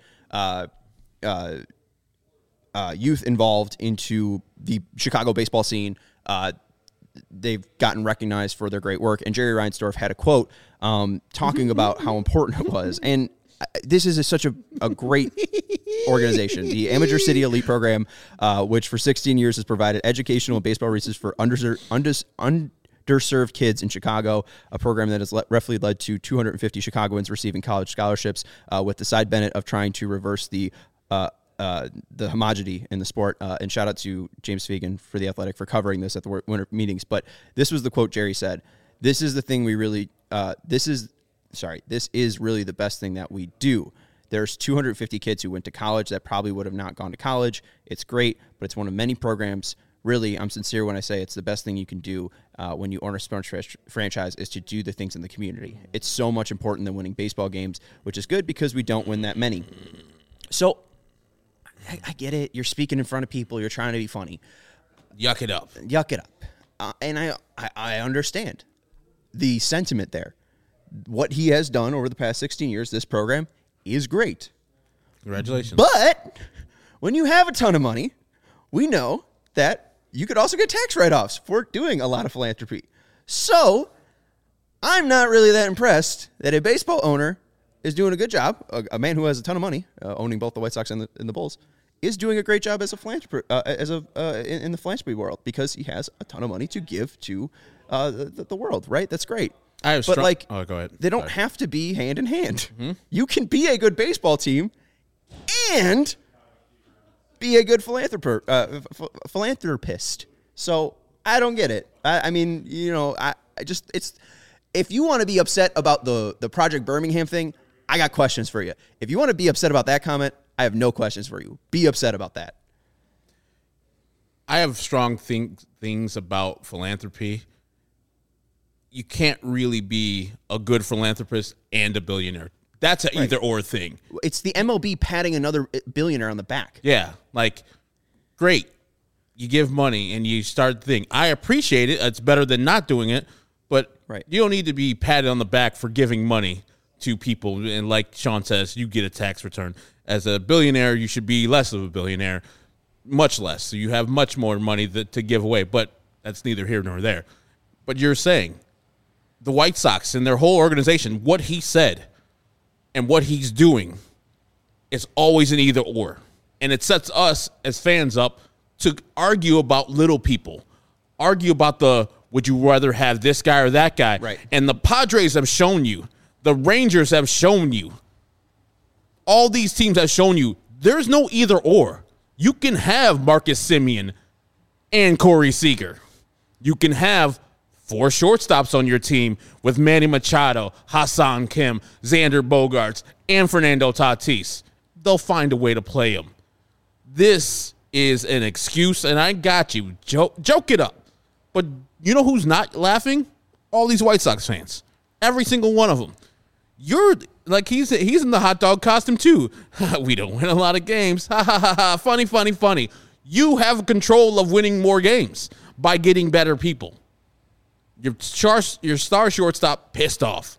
A: youth involved into the Chicago baseball scene. They've gotten recognized for their great work. And Jerry Reinsdorf had a quote talking about how important it was. And this is such a great organization. The Amateur City Elite Program, which for 16 years has provided educational and baseball resources for underserved kids in Chicago, a program that has roughly led to 250 Chicagoans receiving college scholarships, with the side benefit of trying to reverse the homogeneity in the sport. And shout out to James Fegan for The Athletic for covering this at the winter meetings. But this was the quote Jerry said. This is the thing we really, this is really the best thing that we do. There's 250 kids who went to college that probably would have not gone to college. It's great, but it's one of many programs. Really, I'm sincere when I say it's the best thing you can do when you own a sports franchise, is to do the things in the community. It's so much important than winning baseball games, which is good because we don't win that many. So I get it. You're speaking in front of people. You're trying to be funny.
B: Yuck it up.
A: And I understand the sentiment there. What he has done over the past 16 years, this program is great.
B: Congratulations.
A: But when you have a ton of money, we know that you could also get tax write-offs for doing a lot of philanthropy. So I'm not really that impressed that a baseball owner is doing a good job. A man who has a ton of money, owning both the White Sox and the Bulls, is doing a great job as a philanthropist, in the philanthropy world, because he has a ton of money to give to the world. Right? That's great.
B: Go ahead.
A: They don't have to be hand in hand. Mm-hmm. You can be a good baseball team and be a good philanthropist. So I don't get it. I mean, you know, it's if you want to be upset about the Project Birmingham thing, I got questions for you. If you want to be upset about that comment, I have no questions for you. Be upset about that.
B: I have strong things about philanthropy. You can't really be a good philanthropist and a billionaire. That's an either or thing.
A: It's the MLB patting another billionaire on the back.
B: Yeah, like, great. You give money and you start the thing. I appreciate it. It's better than not doing it. But you don't need to be patted on the back for giving money to people. And like Sean says, you get a tax return. As a billionaire, you should be less of a billionaire, much less. So you have much more money to give away. But that's neither here nor there. But you're saying the White Sox and their whole organization, what he said and what he's doing is always an either or. And it sets us as fans up to argue about little people, argue about would you rather have this guy or that guy?
A: Right.
B: And the Padres have shown you, the Rangers have shown you, all these teams have shown you there's no either or. You can have Marcus Semien and Corey Seager. You can have 4 shortstops on your team with Manny Machado, Hassan Kim, Xander Bogaerts, and Fernando Tatis. They'll find a way to play them. This is an excuse, and I got you. Joke it up. But you know who's not laughing? All these White Sox fans. Every single one of them. You're like, he's in the hot dog costume too. We don't win a lot of games. Ha ha ha ha. Funny, funny, funny. You have control of winning more games by getting better people. Your star shortstop pissed off.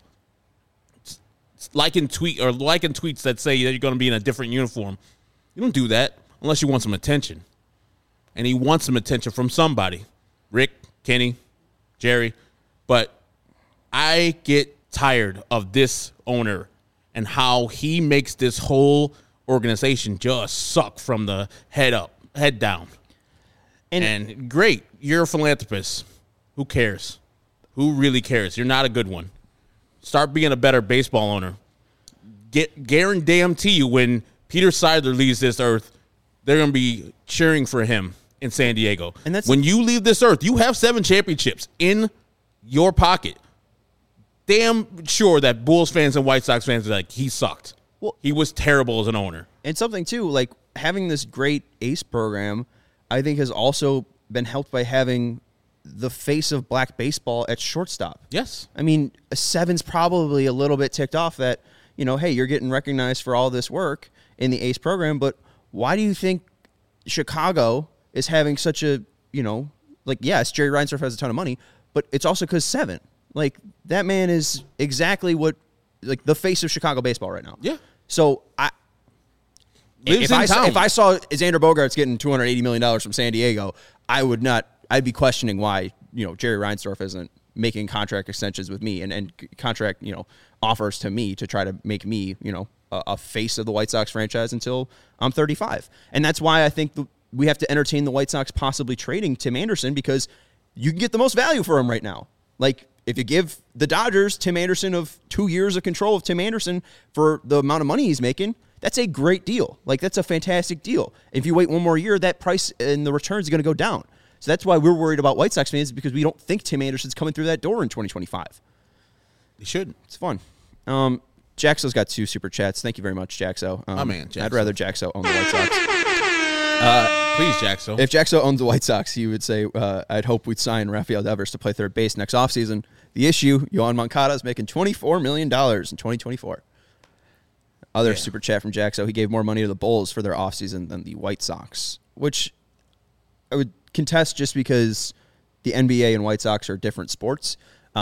B: Liking tweets that say that you're going to be in a different uniform. You don't do that unless you want some attention. And he wants some attention from somebody. Rick, Kenny, Jerry. But I get tired of this owner and how he makes this whole organization just suck from the head down. And great, you're a philanthropist. Who cares? Who really cares? You're not a good one. Start being a better baseball owner. Guarantee you when Peter Seidler leaves this earth, they're going to be cheering for him in San Diego. And when you leave this earth, you have 7 championships in your pocket. Damn sure that Bulls fans and White Sox fans are like, he sucked. Well, he was terrible as an owner.
A: And something, too, like having this great ACE program, I think has also been helped by having the face of black baseball at shortstop.
B: Yes.
A: I mean, a 7's probably a little bit ticked off that, hey, you're getting recognized for all this work in the ACE program, but why do you think Chicago is having such a, yes, Jerry Reinsdorf has a ton of money, but it's also because 7. Like, that man is exactly what, like, the face of Chicago baseball right now.
B: Yeah.
A: So, if I saw Xander Bogaerts getting $280 million from San Diego, I'd be questioning why, Jerry Reinsdorf isn't making contract extensions with me and contract, offers to me to try to make me, a face of the White Sox franchise until I'm 35. And that's why I think we have to entertain the White Sox possibly trading Tim Anderson, because you can get the most value for him right now. Like, if you give the Dodgers Tim Anderson of 2 years of control of Tim Anderson for the amount of money he's making, that's a great deal. Like, that's a fantastic deal. If you wait one more year, that price and the returns are going to go down. So that's why we're worried about White Sox fans, because we don't think Tim Anderson's coming through that door in 2025.
B: He should.
A: It's fun. Jaxo's got 2 super chats. Thank you very much, Jaxo.
B: Jaxo.
A: I'd rather Jaxo own the White Sox.
B: Please, Jaxo.
A: If Jaxo owned the White Sox, he would say, I'd hope we'd sign Rafael Devers to play third base next offseason. The issue, Yohan Moncada is making $24 million in 2024. Other super chat from Jaxo. He gave more money to the Bulls for their offseason than the White Sox, which I would contest just because the NBA and White Sox are different sports.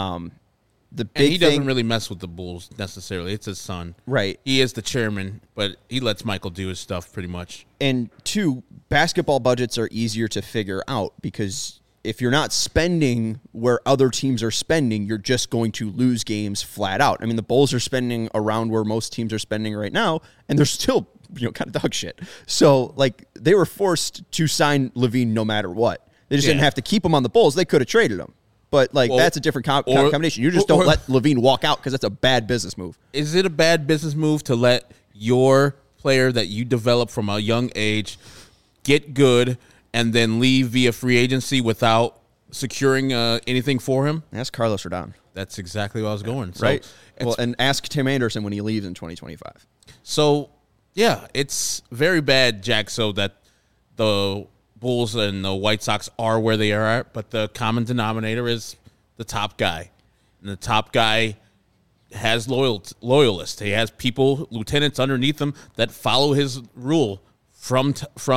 B: He doesn't really mess with the Bulls necessarily. It's his son.
A: Right.
B: He is the chairman, but he lets Michael do his stuff pretty much.
A: And 2, basketball budgets are easier to figure out, because if you're not spending where other teams are spending, you're just going to lose games flat out. I mean, the Bulls are spending around where most teams are spending right now, and they're still, kind of dog shit. So, like, they were forced to sign Levine no matter what. They just didn't have to keep him on the Bulls. They could have traded him. But, that's a different combination. You just don't let Levine walk out, because that's a bad business move.
B: Is it a bad business move to let your player that you develop from a young age get good and then leave via free agency without securing anything for him?
A: Ask Carlos Rodon.
B: That's exactly what I was going. So
A: right. Well, and ask Tim Anderson when he leaves in 2025.
B: So, yeah, it's very bad, Jaxo, that the Bulls and the White Sox are where they are at, but the common denominator is the top guy. And the top guy has loyalists. He has people, lieutenants underneath him that follow his rule from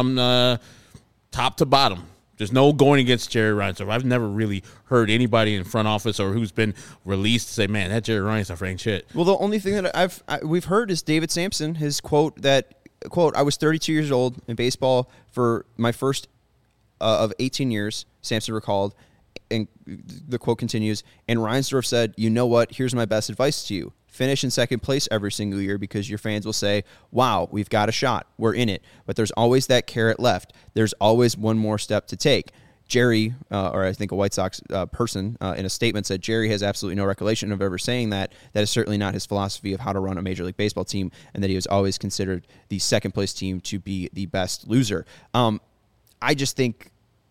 B: top to bottom. There's no going against Jerry Reinsdorf. I've never really heard anybody in front office or who's been released say, man, that Jerry Reinsdorf ain't shit.
A: Well, the only thing that we've heard is David Sampson, his quote, I was 32 years old in baseball for my first of 18 years, Sampson recalled, and the quote continues, and Reinsdorf said, you know what, here's my best advice to you. Finish in second place every single year, because your fans will say, wow, we've got a shot. We're in it. But there's always that carrot left. There's always one more step to take. Jerry, or I think a White Sox person, in a statement said Jerry has absolutely no recollection of ever saying that. That is certainly not his philosophy of how to run a Major League Baseball team, and that he was always considered the second place team to be the best loser. I just think,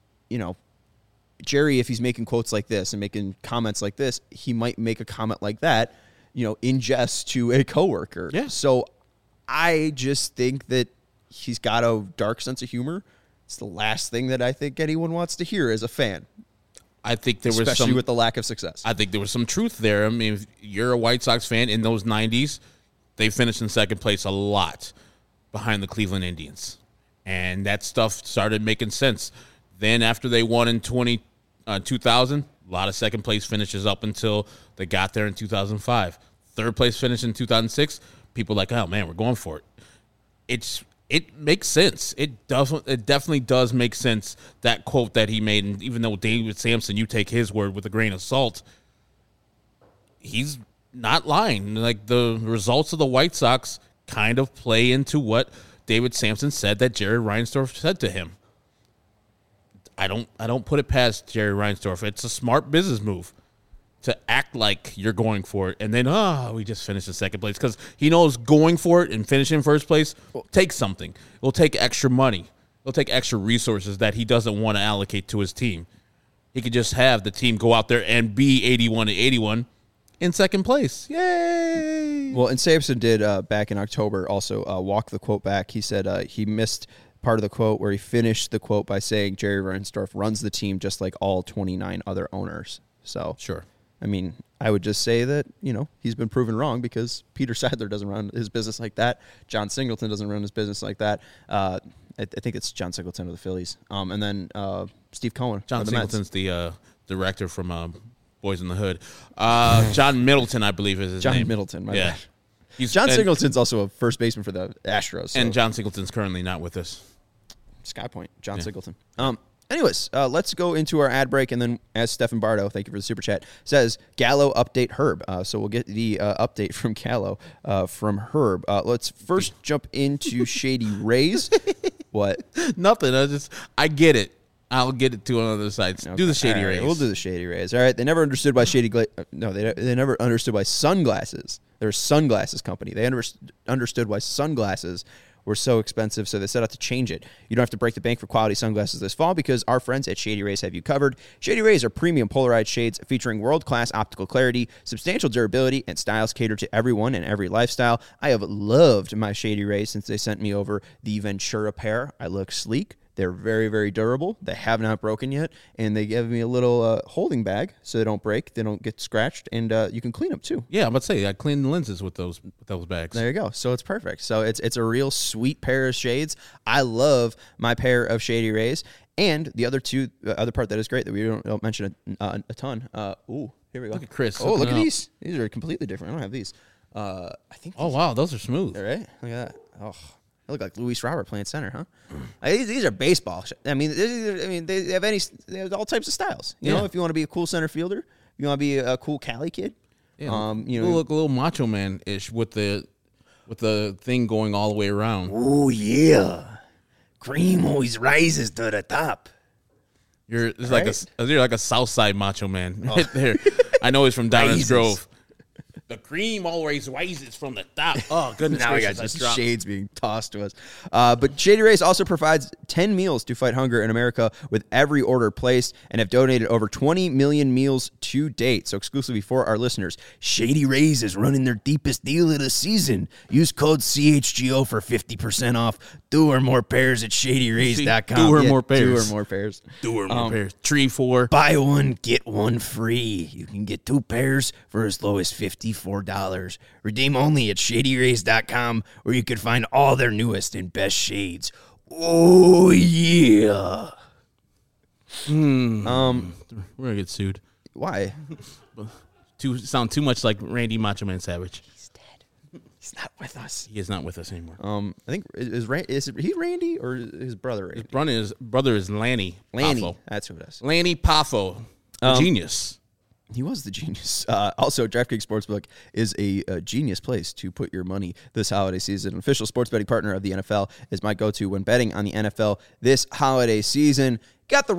A: Jerry, if he's making quotes like this and making comments like this, he might make a comment like that, in jest to a coworker.
B: Yeah.
A: So I just think that he's got a dark sense of humor. It's the last thing that I think anyone wants to hear as a fan.
B: I think there was
A: especially with the lack of success.
B: I think there was some truth there. I mean, if you're a White Sox fan in those 90s, they finished in second place a lot behind the Cleveland Indians. And that stuff started making sense. Then after they won in 2000, a lot of second place finishes up until they got there in 2005. Third place finish in 2006, people like, oh, man, we're going for it. It makes sense. It definitely does make sense, that quote that he made. And even though David Samson, you take his word with a grain of salt, he's not lying. Like, the results of the White Sox kind of play into what David Samson said that Jerry Reinsdorf said to him. I don't put it past Jerry Reinsdorf. It's a smart business move to act like you're going for it, and then, we just finished in second place, because he knows going for it and finishing in first place takes something. It will take extra money. It'll take extra resources that he doesn't want to allocate to his team. He could just have the team go out there and be 81-81 in second place. Yay!
A: Well, and Samson did back in October also walk the quote back. He said he missed part of the quote where he finished the quote by saying Jerry Reinsdorf runs the team just like all 29 other owners. So
B: Sure.
A: I mean, I would just say that, he's been proven wrong, because Peter Seidler doesn't run his business like that. John Singleton doesn't run his business like that. I think it's John Singleton of the Phillies. And then Steve Cohen.
B: John
A: of the
B: Singleton's
A: Mets.
B: the director from Boys in the Hood. John Middleton, I believe, is his name.
A: John Middleton, my bad.
B: John
A: Singleton's also a first baseman for the Astros. So.
B: And John Singleton's currently not with us.
A: Sky Point, John Singleton. Anyways, let's go into our ad break, and then, as Stefan Bardo, thank you for the super chat, says, Gallo update Herb. So we'll get the update from Gallo from Herb. Let's first jump into Shady Rays. What?
B: Nothing. I get it. I'll get it to on other sides.
A: Okay.
B: Do the Shady
A: All right,
B: Rays.
A: We'll do the Shady Rays. All right. They never understood why they never understood why sunglasses. They're a sunglasses company. They understood why sunglasses were so expensive, so they set out to change it. You don't have to break the bank for quality sunglasses this fall, because our friends at Shady Rays have you covered. Shady Rays are premium polarized shades featuring world-class optical clarity, substantial durability, and styles catered to everyone and every lifestyle. I have loved my Shady Rays since they sent me over the Ventura pair. I look sleek. They're very, very durable. They have not broken yet, and they give me a little holding bag so they don't break, they don't get scratched, and you can clean them too.
B: Yeah, I'm about to say, I clean the lenses with those bags.
A: There you go. So it's perfect. So it's a real sweet pair of shades. I love my pair of Shady Rays, and the other part that is great that we don't mention a ton. Here we go.
B: Look at Chris.
A: Oh, look at these. These are completely different. I don't have these. I think.
B: Oh wow, those are smooth.
A: All right. Look at that. Oh. They look like Luis Robert playing center, huh? These are baseball. I mean, they have all types of styles. You know, if you want to be a cool center fielder, if you want to be a cool Cali kid.
B: Yeah, you look a little Macho Man-ish with the thing going all the way around.
A: Oh yeah, cream always rises to the top.
B: You're like a South Side Macho Man right there. I know he's from Downers Grove. The cream always rises from the top. Oh, goodness
A: now
B: gracious.
A: We got just shades being tossed to us. But Shady Rays also provides 10 meals to fight hunger in America with every order placed, and have donated over 20 million meals to date. So exclusively for our listeners, Shady Rays is running their deepest deal of the season. Use code CHGO for 50% off. 2 or more pairs at ShadyRays.com.
B: 2 or more pairs.
A: 2 or more pairs.
B: 2 or more pairs. 3, 4.
A: Buy one, get one free. You can get 2 pairs for as low as $54. Redeem only at ShadyRays.com, where you can find all their newest and best shades. Oh, yeah.
B: We're going to get sued.
A: Why?
B: Sound too much like Randy Macho Man Savage.
A: He's dead. He's not with us.
B: He is not with us anymore.
A: I think is he Randy or his brother Randy?
B: His brother is Lanny.
A: Lanny.
B: Poffo.
A: That's who it is.
B: Lanny Poffo. Genius.
A: He was the genius. Also, DraftKings Sportsbook is a genius place to put your money this holiday season. An official sports betting partner of the NFL is my go-to when betting on the NFL this holiday season. You got the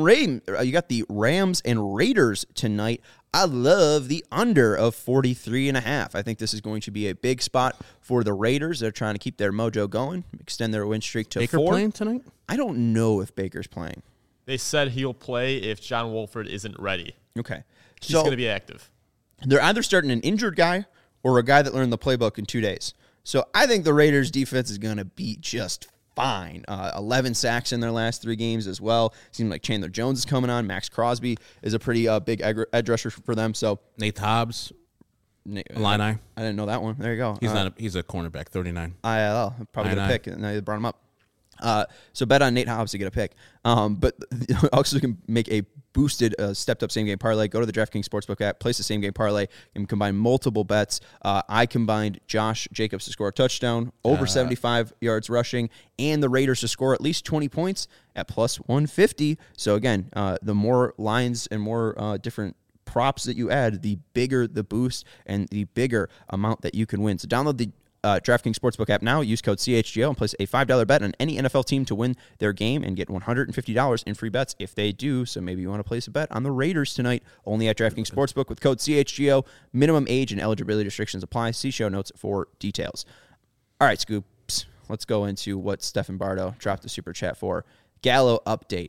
A: Rams and Raiders tonight. I love the under of 43.5. I think this is going to be a big spot for the Raiders. They're trying to keep their mojo going, extend their win streak to
B: Baker
A: 4.
B: Playing tonight?
A: I don't know if Baker's playing.
D: They said he'll play if John Wolford isn't ready.
A: Okay.
D: He's going to be active.
A: They're either starting an injured guy or a guy that learned the playbook in 2 days. So I think the Raiders defense is going to be just fine. 11 sacks in their last 3 games as well. Seems like Chandler Jones is coming on. Max Crosby is a pretty big edge rusher for them. So
B: Nate Hobbs, Illini.
A: I didn't know that one. There you go.
B: He's a cornerback, 39.
A: ILL, probably get a
B: INI.
A: pick. And they brought him up. So bet on Nate Hobbs to get a pick. But also can make a boosted, stepped up same game parlay. Go to the DraftKings Sportsbook app, place the same game parlay, and combine multiple bets. I combined Josh Jacobs to score a touchdown, over 75 yards rushing, and the Raiders to score at least 20 points at plus 150. So again, the more lines and more different props that you add, the bigger the boost and the bigger amount that you can win. So download the DraftKings Sportsbook app now. Use code CHGO and place a $5 bet on any NFL team to win their game and get $150 in free bets if they do. So maybe you want to place a bet on the Raiders tonight, only at DraftKings Sportsbook with code CHGO. Minimum age and eligibility restrictions apply. See show notes for details. All right, Scoops, let's go into what Stefan Bardo dropped the super chat for. Gallo update.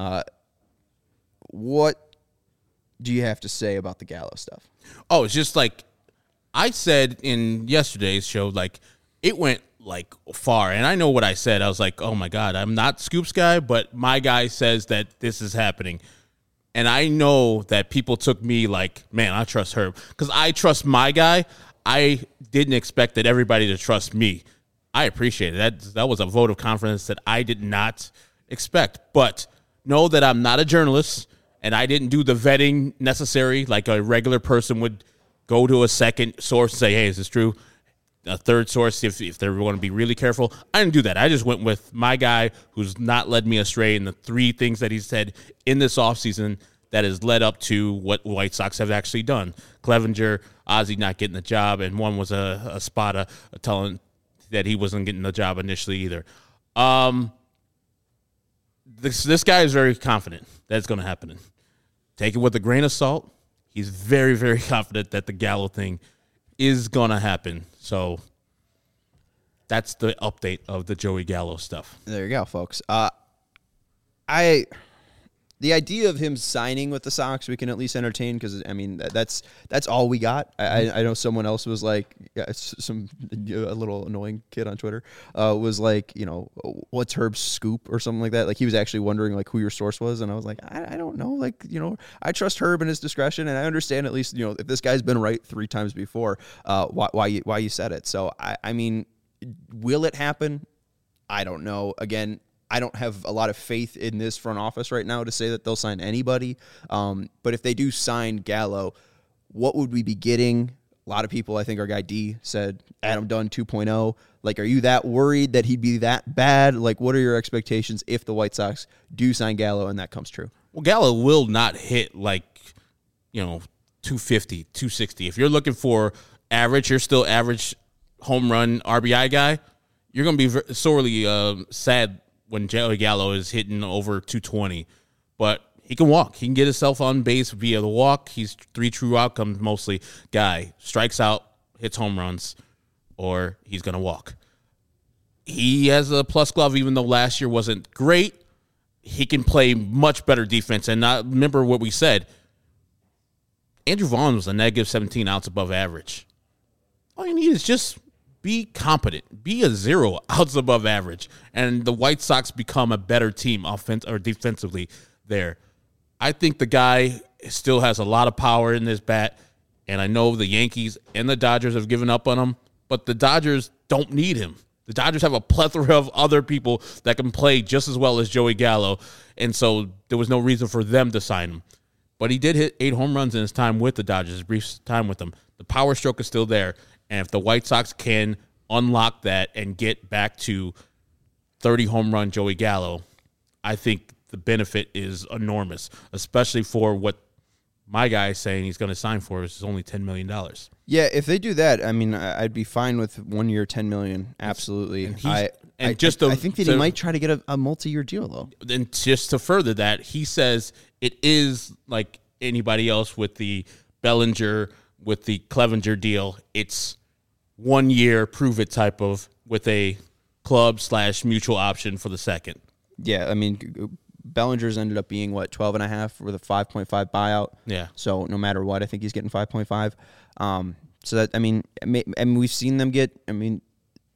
A: What do you have to say about the Gallo stuff?
B: Oh, it's just like I said in yesterday's show, like it went like far, and I know what I said. I was like, oh my God, I'm not Scoops guy, but my guy says that this is happening. And I know that people took me like, man, I trust Herb because I trust my guy. I didn't expect that everybody to trust me. I appreciate it. That was a vote of confidence that I did not expect. But know that I'm not a journalist, and I didn't do the vetting necessary like a regular person would. Go to a second source and say, hey, is this true? A third source, if they're going to be really careful. I didn't do that. I just went with my guy who's not led me astray in the 3 things that he said in this offseason that has led up to what White Sox have actually done. Clevenger, Ozzie not getting the job, and one was a spot telling that he wasn't getting the job initially either. This guy is very confident that it's going to happen. Take it with a grain of salt. He's very, very confident that the Gallo thing is going to happen. So that's the update of the Joey Gallo stuff.
A: There you go, folks. The idea of him signing with the Sox, we can at least entertain because, I mean, that's all we got. I know someone else was like, a little annoying kid on Twitter was like, what's Herb's scoop or something like that. Like he was actually wondering like who your source was. And I was like, I don't know. Like, I trust Herb and his discretion. And I understand at least, if this guy's been right 3 times before, why you said it. So, I mean, will it happen? I don't know. Again, I don't have a lot of faith in this front office right now to say that they'll sign anybody. But if they do sign Gallo, what would we be getting? A lot of people, I think our guy D said Adam Dunn 2.0. Like, are you that worried that he'd be that bad? Like, what are your expectations if the White Sox do sign Gallo and that comes true?
B: Well, Gallo will not hit like, 250, 260. If you're looking for average, you're still average home run RBI guy, you're going to be sorely sad when Joey Gallo is hitting over 220, but he can walk. He can get himself on base via the walk. He's 3 true outcomes mostly guy. Strikes out, hits home runs, or he's going to walk. He has a plus glove, even though last year wasn't great. He can play much better defense. And remember what we said. Andrew Vaughn was a negative 17 outs above average. All you need is just be competent. Be a 0 outs above average. And the White Sox become a better team defensively there. I think the guy still has a lot of power in this bat. And I know the Yankees and the Dodgers have given up on him. But the Dodgers don't need him. The Dodgers have a plethora of other people that can play just as well as Joey Gallo. And so there was no reason for them to sign him. But he did hit 8 home runs in his time with the Dodgers, his brief time with them. The power stroke is still there. And if the White Sox can unlock that and get back to 30 home run Joey Gallo, I think the benefit is enormous, especially for what my guy is saying he's going to sign for is only $10 million.
A: Yeah, if they do that, I mean, I'd be fine with 1 year, $10 million. Absolutely. I think that he might try to get a multi-year deal, though.
B: And just to further that, he says it is like anybody else with the Bellinger, with the Clevenger deal. It's 1 year, prove it type of with a club/mutual option for the second.
A: Yeah, I mean, Bellinger's ended up being, 12.5 with a 5.5 buyout.
B: Yeah.
A: So no matter what, I think he's getting 5.5. So that, I mean, we've seen them get,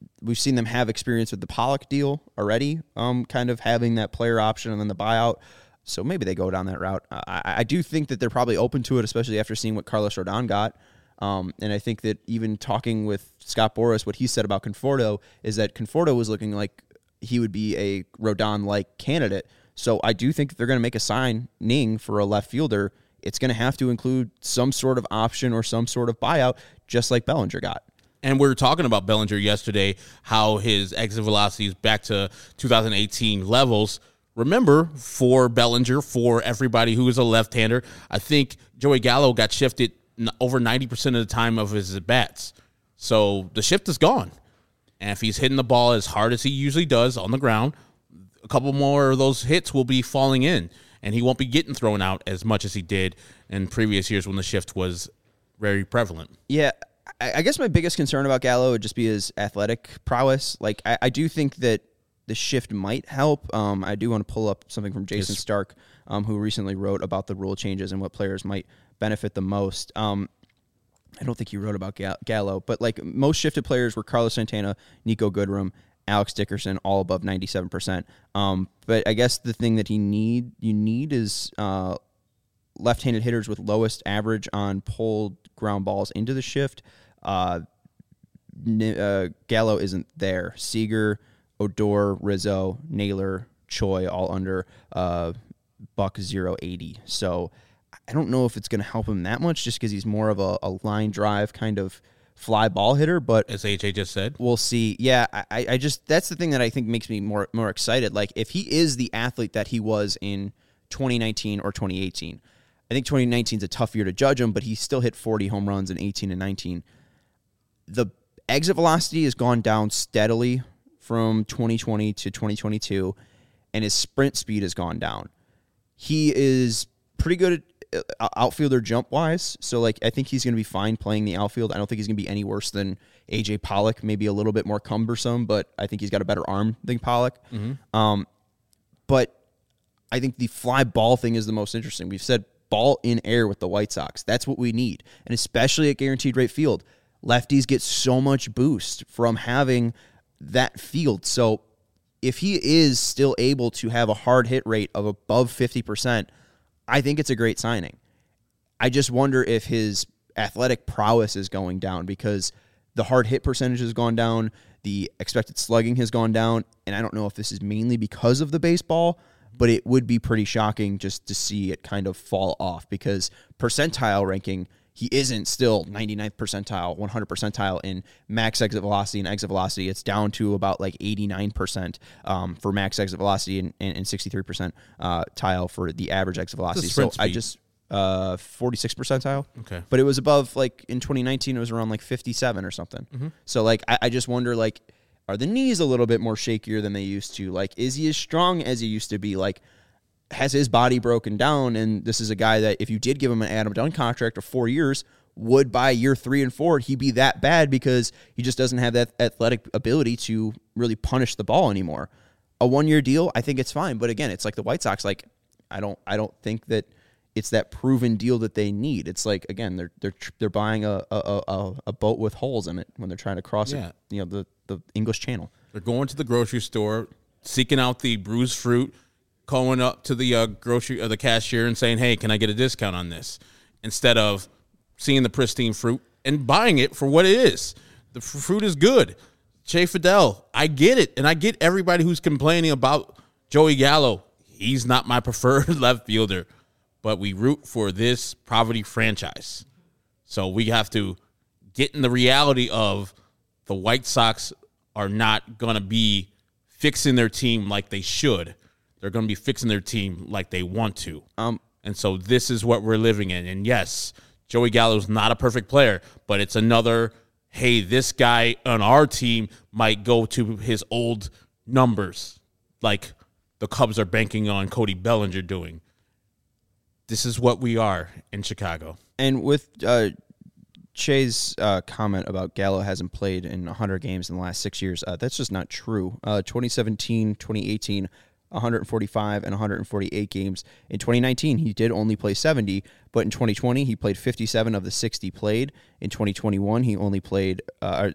A: we've seen them have experience with the Pollock deal already, kind of having that player option and then the buyout. So maybe they go down that route. I do think that they're probably open to it, especially after seeing what Carlos Rodon got. And I think that even talking with Scott Boras, what he said about Conforto is that Conforto was looking like he would be a Rodon-like candidate. So I do think that they're going to make a signing for a left fielder. It's going to have to include some sort of option or some sort of buyout, just like Bellinger got.
B: And we were talking about Bellinger yesterday, how his exit velocity is back to 2018 levels. Remember, for Bellinger, for everybody who is a left-hander, I think Joey Gallo got shifted over 90% of the time of his at-bats. So the shift is gone. And if he's hitting the ball as hard as he usually does on the ground, a couple more of those hits will be falling in, and he won't be getting thrown out as much as he did in previous years when the shift was very prevalent.
A: Yeah, I guess my biggest concern about Gallo would just be his athletic prowess. Like, I do think that the shift might help. I do want to pull up something from Jason Stark, who recently wrote about the rule changes and what players might benefit the most. I don't think he wrote about Gallo, but like most shifted players were Carlos Santana, Nico Goodrum, Alex Dickerson, all above 97%. But I guess the thing that you need is left-handed hitters with lowest average on pulled ground balls into the shift. Gallo isn't there. Seager, Odor, Rizzo, Naylor, Choi, all under buck 080. So I don't know if it's going to help him that much just because he's more of a line drive kind of fly ball hitter. But
B: as AJ just said,
A: we'll see. Yeah, I just that's the thing that I think makes me more excited. Like if he is the athlete that he was in 2019 or 2018, I think 2019 is a tough year to judge him, but he still hit 40 home runs in 18 and 19. The exit velocity has gone down steadily from 2020 to 2022, and his sprint speed has gone down. He is pretty good at outfielder jump-wise, so like I think he's going to be fine playing the outfield. I don't think he's going to be any worse than A.J. Pollock, maybe a little bit more cumbersome, but I think he's got a better arm than Pollock. Mm-hmm. But I think the fly ball thing is the most interesting. We've said ball in air with the White Sox. That's what we need, and especially at Guaranteed Rate Field. Lefties get so much boost from having that field. So if he is still able to have a hard hit rate of above 50%, I think it's a great signing. I just wonder if his athletic prowess is going down because the hard hit percentage has gone down, the expected slugging has gone down, and I don't know if this is mainly because of the baseball, but it would be pretty shocking just to see it kind of fall off because percentile ranking, he isn't still 99th percentile, 100 percentile in max exit velocity and exit velocity. It's down to about like 89% for max exit velocity and 63% tile for the average exit velocity. So speed. I just 46 percentile.
B: Okay.
A: But it was above, like in 2019, it was around like 57 or something. Mm-hmm. So like I just wonder, like, are the knees a little bit more shakier than they used to? Like, is he as strong as he used to be? Like, has his body broken down? And this is a guy that if you did give him an Adam Dunn contract of 4 years, would by year 3 and 4 he be that bad because he just doesn't have that athletic ability to really punish the ball anymore? A 1-year deal, I think it's fine. But again, it's like the White Sox. Like, I don't think that it's that proven deal that they need. It's like, again, they're buying a boat with holes in it when they're trying to cross it, the English Channel.
B: They're going to the grocery store, seeking out the bruised fruit, calling up to the the cashier and saying, "Hey, can I get a discount on this?" Instead of seeing the pristine fruit and buying it for what it is. The fruit is good. Shea Fidel, I get it, and I get everybody who's complaining about Joey Gallo. He's not my preferred left fielder, but we root for this poverty franchise. So we have to get in the reality of the White Sox are not going to be fixing their team like they should. They're going to be fixing their team like they want to. And so this is what we're living in. And yes, Joey Gallo's not a perfect player, but it's another, hey, this guy on our team might go to his old numbers like the Cubs are banking on Cody Bellinger doing. This is what we are in Chicago.
A: And with Shay's comment about Gallo hasn't played in 100 games in the last 6 years, that's just not true. 2017, 2018, 145 and 148 games. In 2019, he did only play 70, but in 2020, he played 57 of the 60 played. In 2021, he played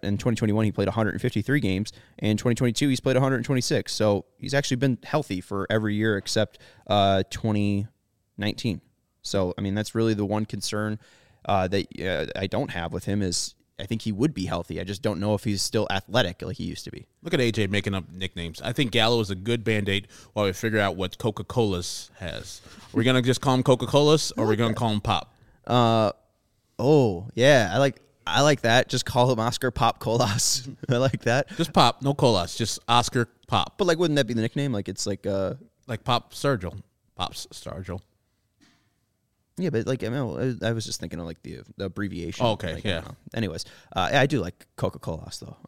A: 153 games. And in 2022, he's played 126. So he's actually been healthy for every year except 2019. So, I mean, that's really the one concern that I don't have with him is I think he would be healthy. I just don't know if he's still athletic like he used to be.
B: Look at AJ making up nicknames. I think Gallo is a good Band-Aid while we figure out what Coca-Cola's has. Are we going to just call him Coca-Cola's or are we going to call him Pop?
A: Oh, yeah. I like that. Just call him Oscar Pop Colas. I like that.
B: Just Pop, no Colas, just Oscar Pop.
A: But like, wouldn't that be the nickname? Like it's like
B: Pop Sturgill. Pop's Sturgill.
A: Yeah, but like I was just thinking of like the abbreviation.
B: Oh, okay,
A: like,
B: yeah.
A: Anyways, I do like Coca-Colas though.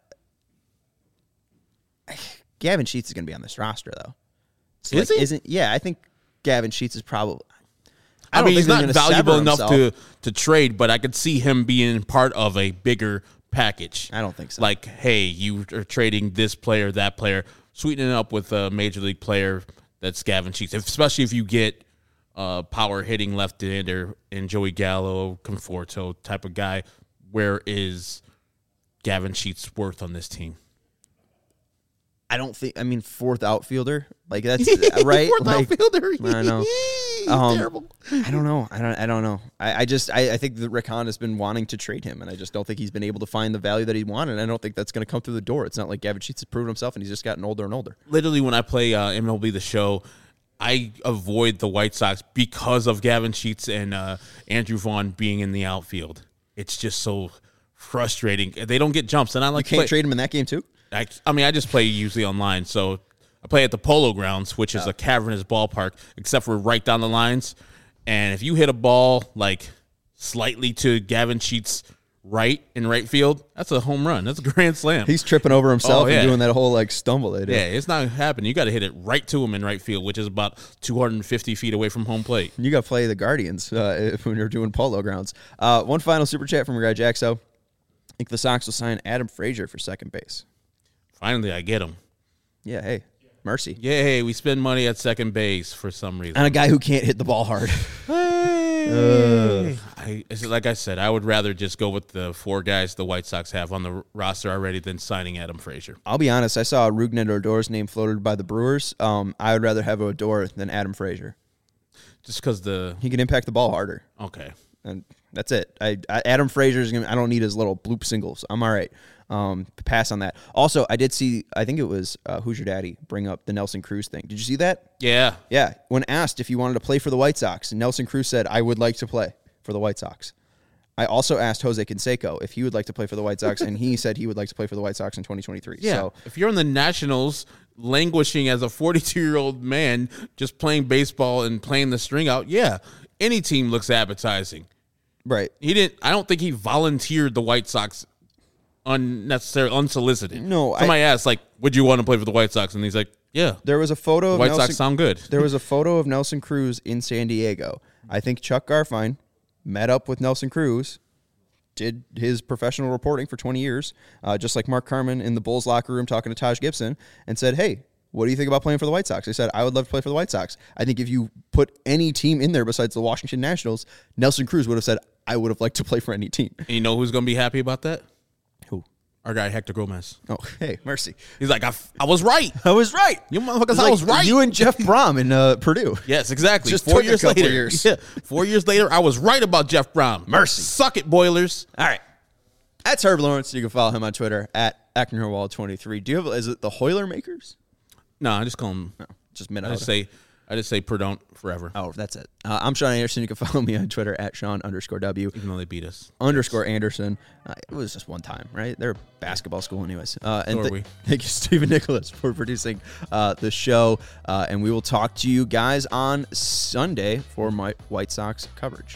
A: Gavin Sheets is going to be on this roster though. So,
B: is he?
A: Yeah, I think Gavin Sheets is probably.
B: I mean, he's not valuable enough
A: himself.
B: to trade, but I could see him being part of a bigger package.
A: I don't think so.
B: Like, hey, you are trading this player, that player, sweetening it up with a major league player that's Gavin Sheets, especially if you get power hitting left-hander and Joey Gallo, Conforto type of guy. Where is Gavin Sheets' worth on this team?
A: I don't think. I mean, fourth outfielder, like that's right.
B: Fourth
A: like,
B: outfielder.
A: I know.
B: Terrible.
A: I don't know. I don't know. I think that Rick Hahn has been wanting to trade him, and I just don't think he's been able to find the value that he wanted. And I don't think that's going to come through the door. It's not like Gavin Sheets has proven himself, and he's just gotten older and older.
B: Literally, when I play MLB The Show, I avoid the White Sox because of Gavin Sheets and Andrew Vaughn being in the outfield. It's just so frustrating. They don't get jumps, and I like
A: you can't trade him in that game too.
B: I mean, I just play usually online, so I play at the Polo Grounds, which is a cavernous ballpark, except for right down the lines. And if you hit a ball like slightly to Gavin Sheets' right in right field, that's a home run. That's a grand slam.
A: He's tripping over himself
B: yeah.
A: and doing that whole like stumble they do.
B: Yeah, it's not happening. You got to hit it right to him in right field, which is about 250 feet away from home plate.
A: You got to play the Guardians when you're doing Polo Grounds. One final super chat from your guy Jaxo. I think the Sox will sign Adam Frazier for second base.
B: Finally, I get him.
A: Yeah, hey, mercy.
B: Yay, we spend money at second base for some reason.
A: And a guy who can't hit the ball hard.
B: Like I said, I would rather just go with the four guys the White Sox have on the roster already than signing Adam Frazier.
A: I'll be honest. I saw Rougned Odor's name floated by the Brewers. I would rather have Odor than Adam Frazier.
B: Just because
A: he can impact the ball harder.
B: Okay.
A: And that's it. Adam Frazier's gonna. I don't need his little bloop singles. I'm all right. Pass on that. Also, I did see. I think it was Who's Your Daddy bring up the Nelson Cruz thing. Did you see that?
B: Yeah.
A: Yeah. When asked if he wanted to play for the White Sox, Nelson Cruz said, "I would like to play for the White Sox." I also asked Jose Canseco if he would like to play for the White Sox, and he said he would like to play for the White Sox in 2023.
B: Yeah.
A: So
B: if you're in the Nationals, languishing as a 42-year-old man, just playing baseball and playing the string out, yeah, any team looks appetizing.
A: right.
B: I don't think he volunteered the White Sox unnecessarily, unsolicited.
A: No,
B: somebody asked, like, would you want to play for the White Sox? And he's like, yeah.
A: There was a photo of
B: White
A: Nelson,
B: Sox sound good.
A: There was a photo of Nelson Cruz in San Diego. I think Chuck Garfien met up with Nelson Cruz, did his professional reporting for 20 years, just like Mark Carman in the Bulls locker room talking to Taj Gibson, and said, hey, what do you think about playing for the White Sox? They said, I would love to play for the White Sox. I think if you put any team in there besides the Washington Nationals, Nelson Cruz would have said, I would have liked to play for any team.
B: And you know who's going to be happy about that?
A: Who?
B: Our guy, Hector Gomez.
A: Oh, hey, mercy.
B: He's like, I was right.
A: I was right.
B: You motherfuckers, I was right.
A: You and Jeff Brom in Purdue.
B: Yes, exactly.
A: Just
B: 4
A: took a
B: years
A: couple
B: later.
A: years.
B: Yeah, 4 years later, I was right about Jeff Brom.
A: Mercy.
B: Suck it, Boilers.
A: All right. That's Herb Lawrence. You can follow him on Twitter at ActonHerwall23. Do you have, is it the Hoiler Makers?
B: No, I just call him.
A: No, just Minnesota.
B: I just say Perdon't forever.
A: Oh, that's it. I'm Sean Anderson. You can follow me on Twitter at Sean_W.
B: Even though they beat us.
A: _Anderson. It was just one time, right? They're a basketball school anyways. And
B: we.
A: Thank you, Stephen Nicholas, for producing the show. And we will talk to you guys on Sunday for my White Sox coverage.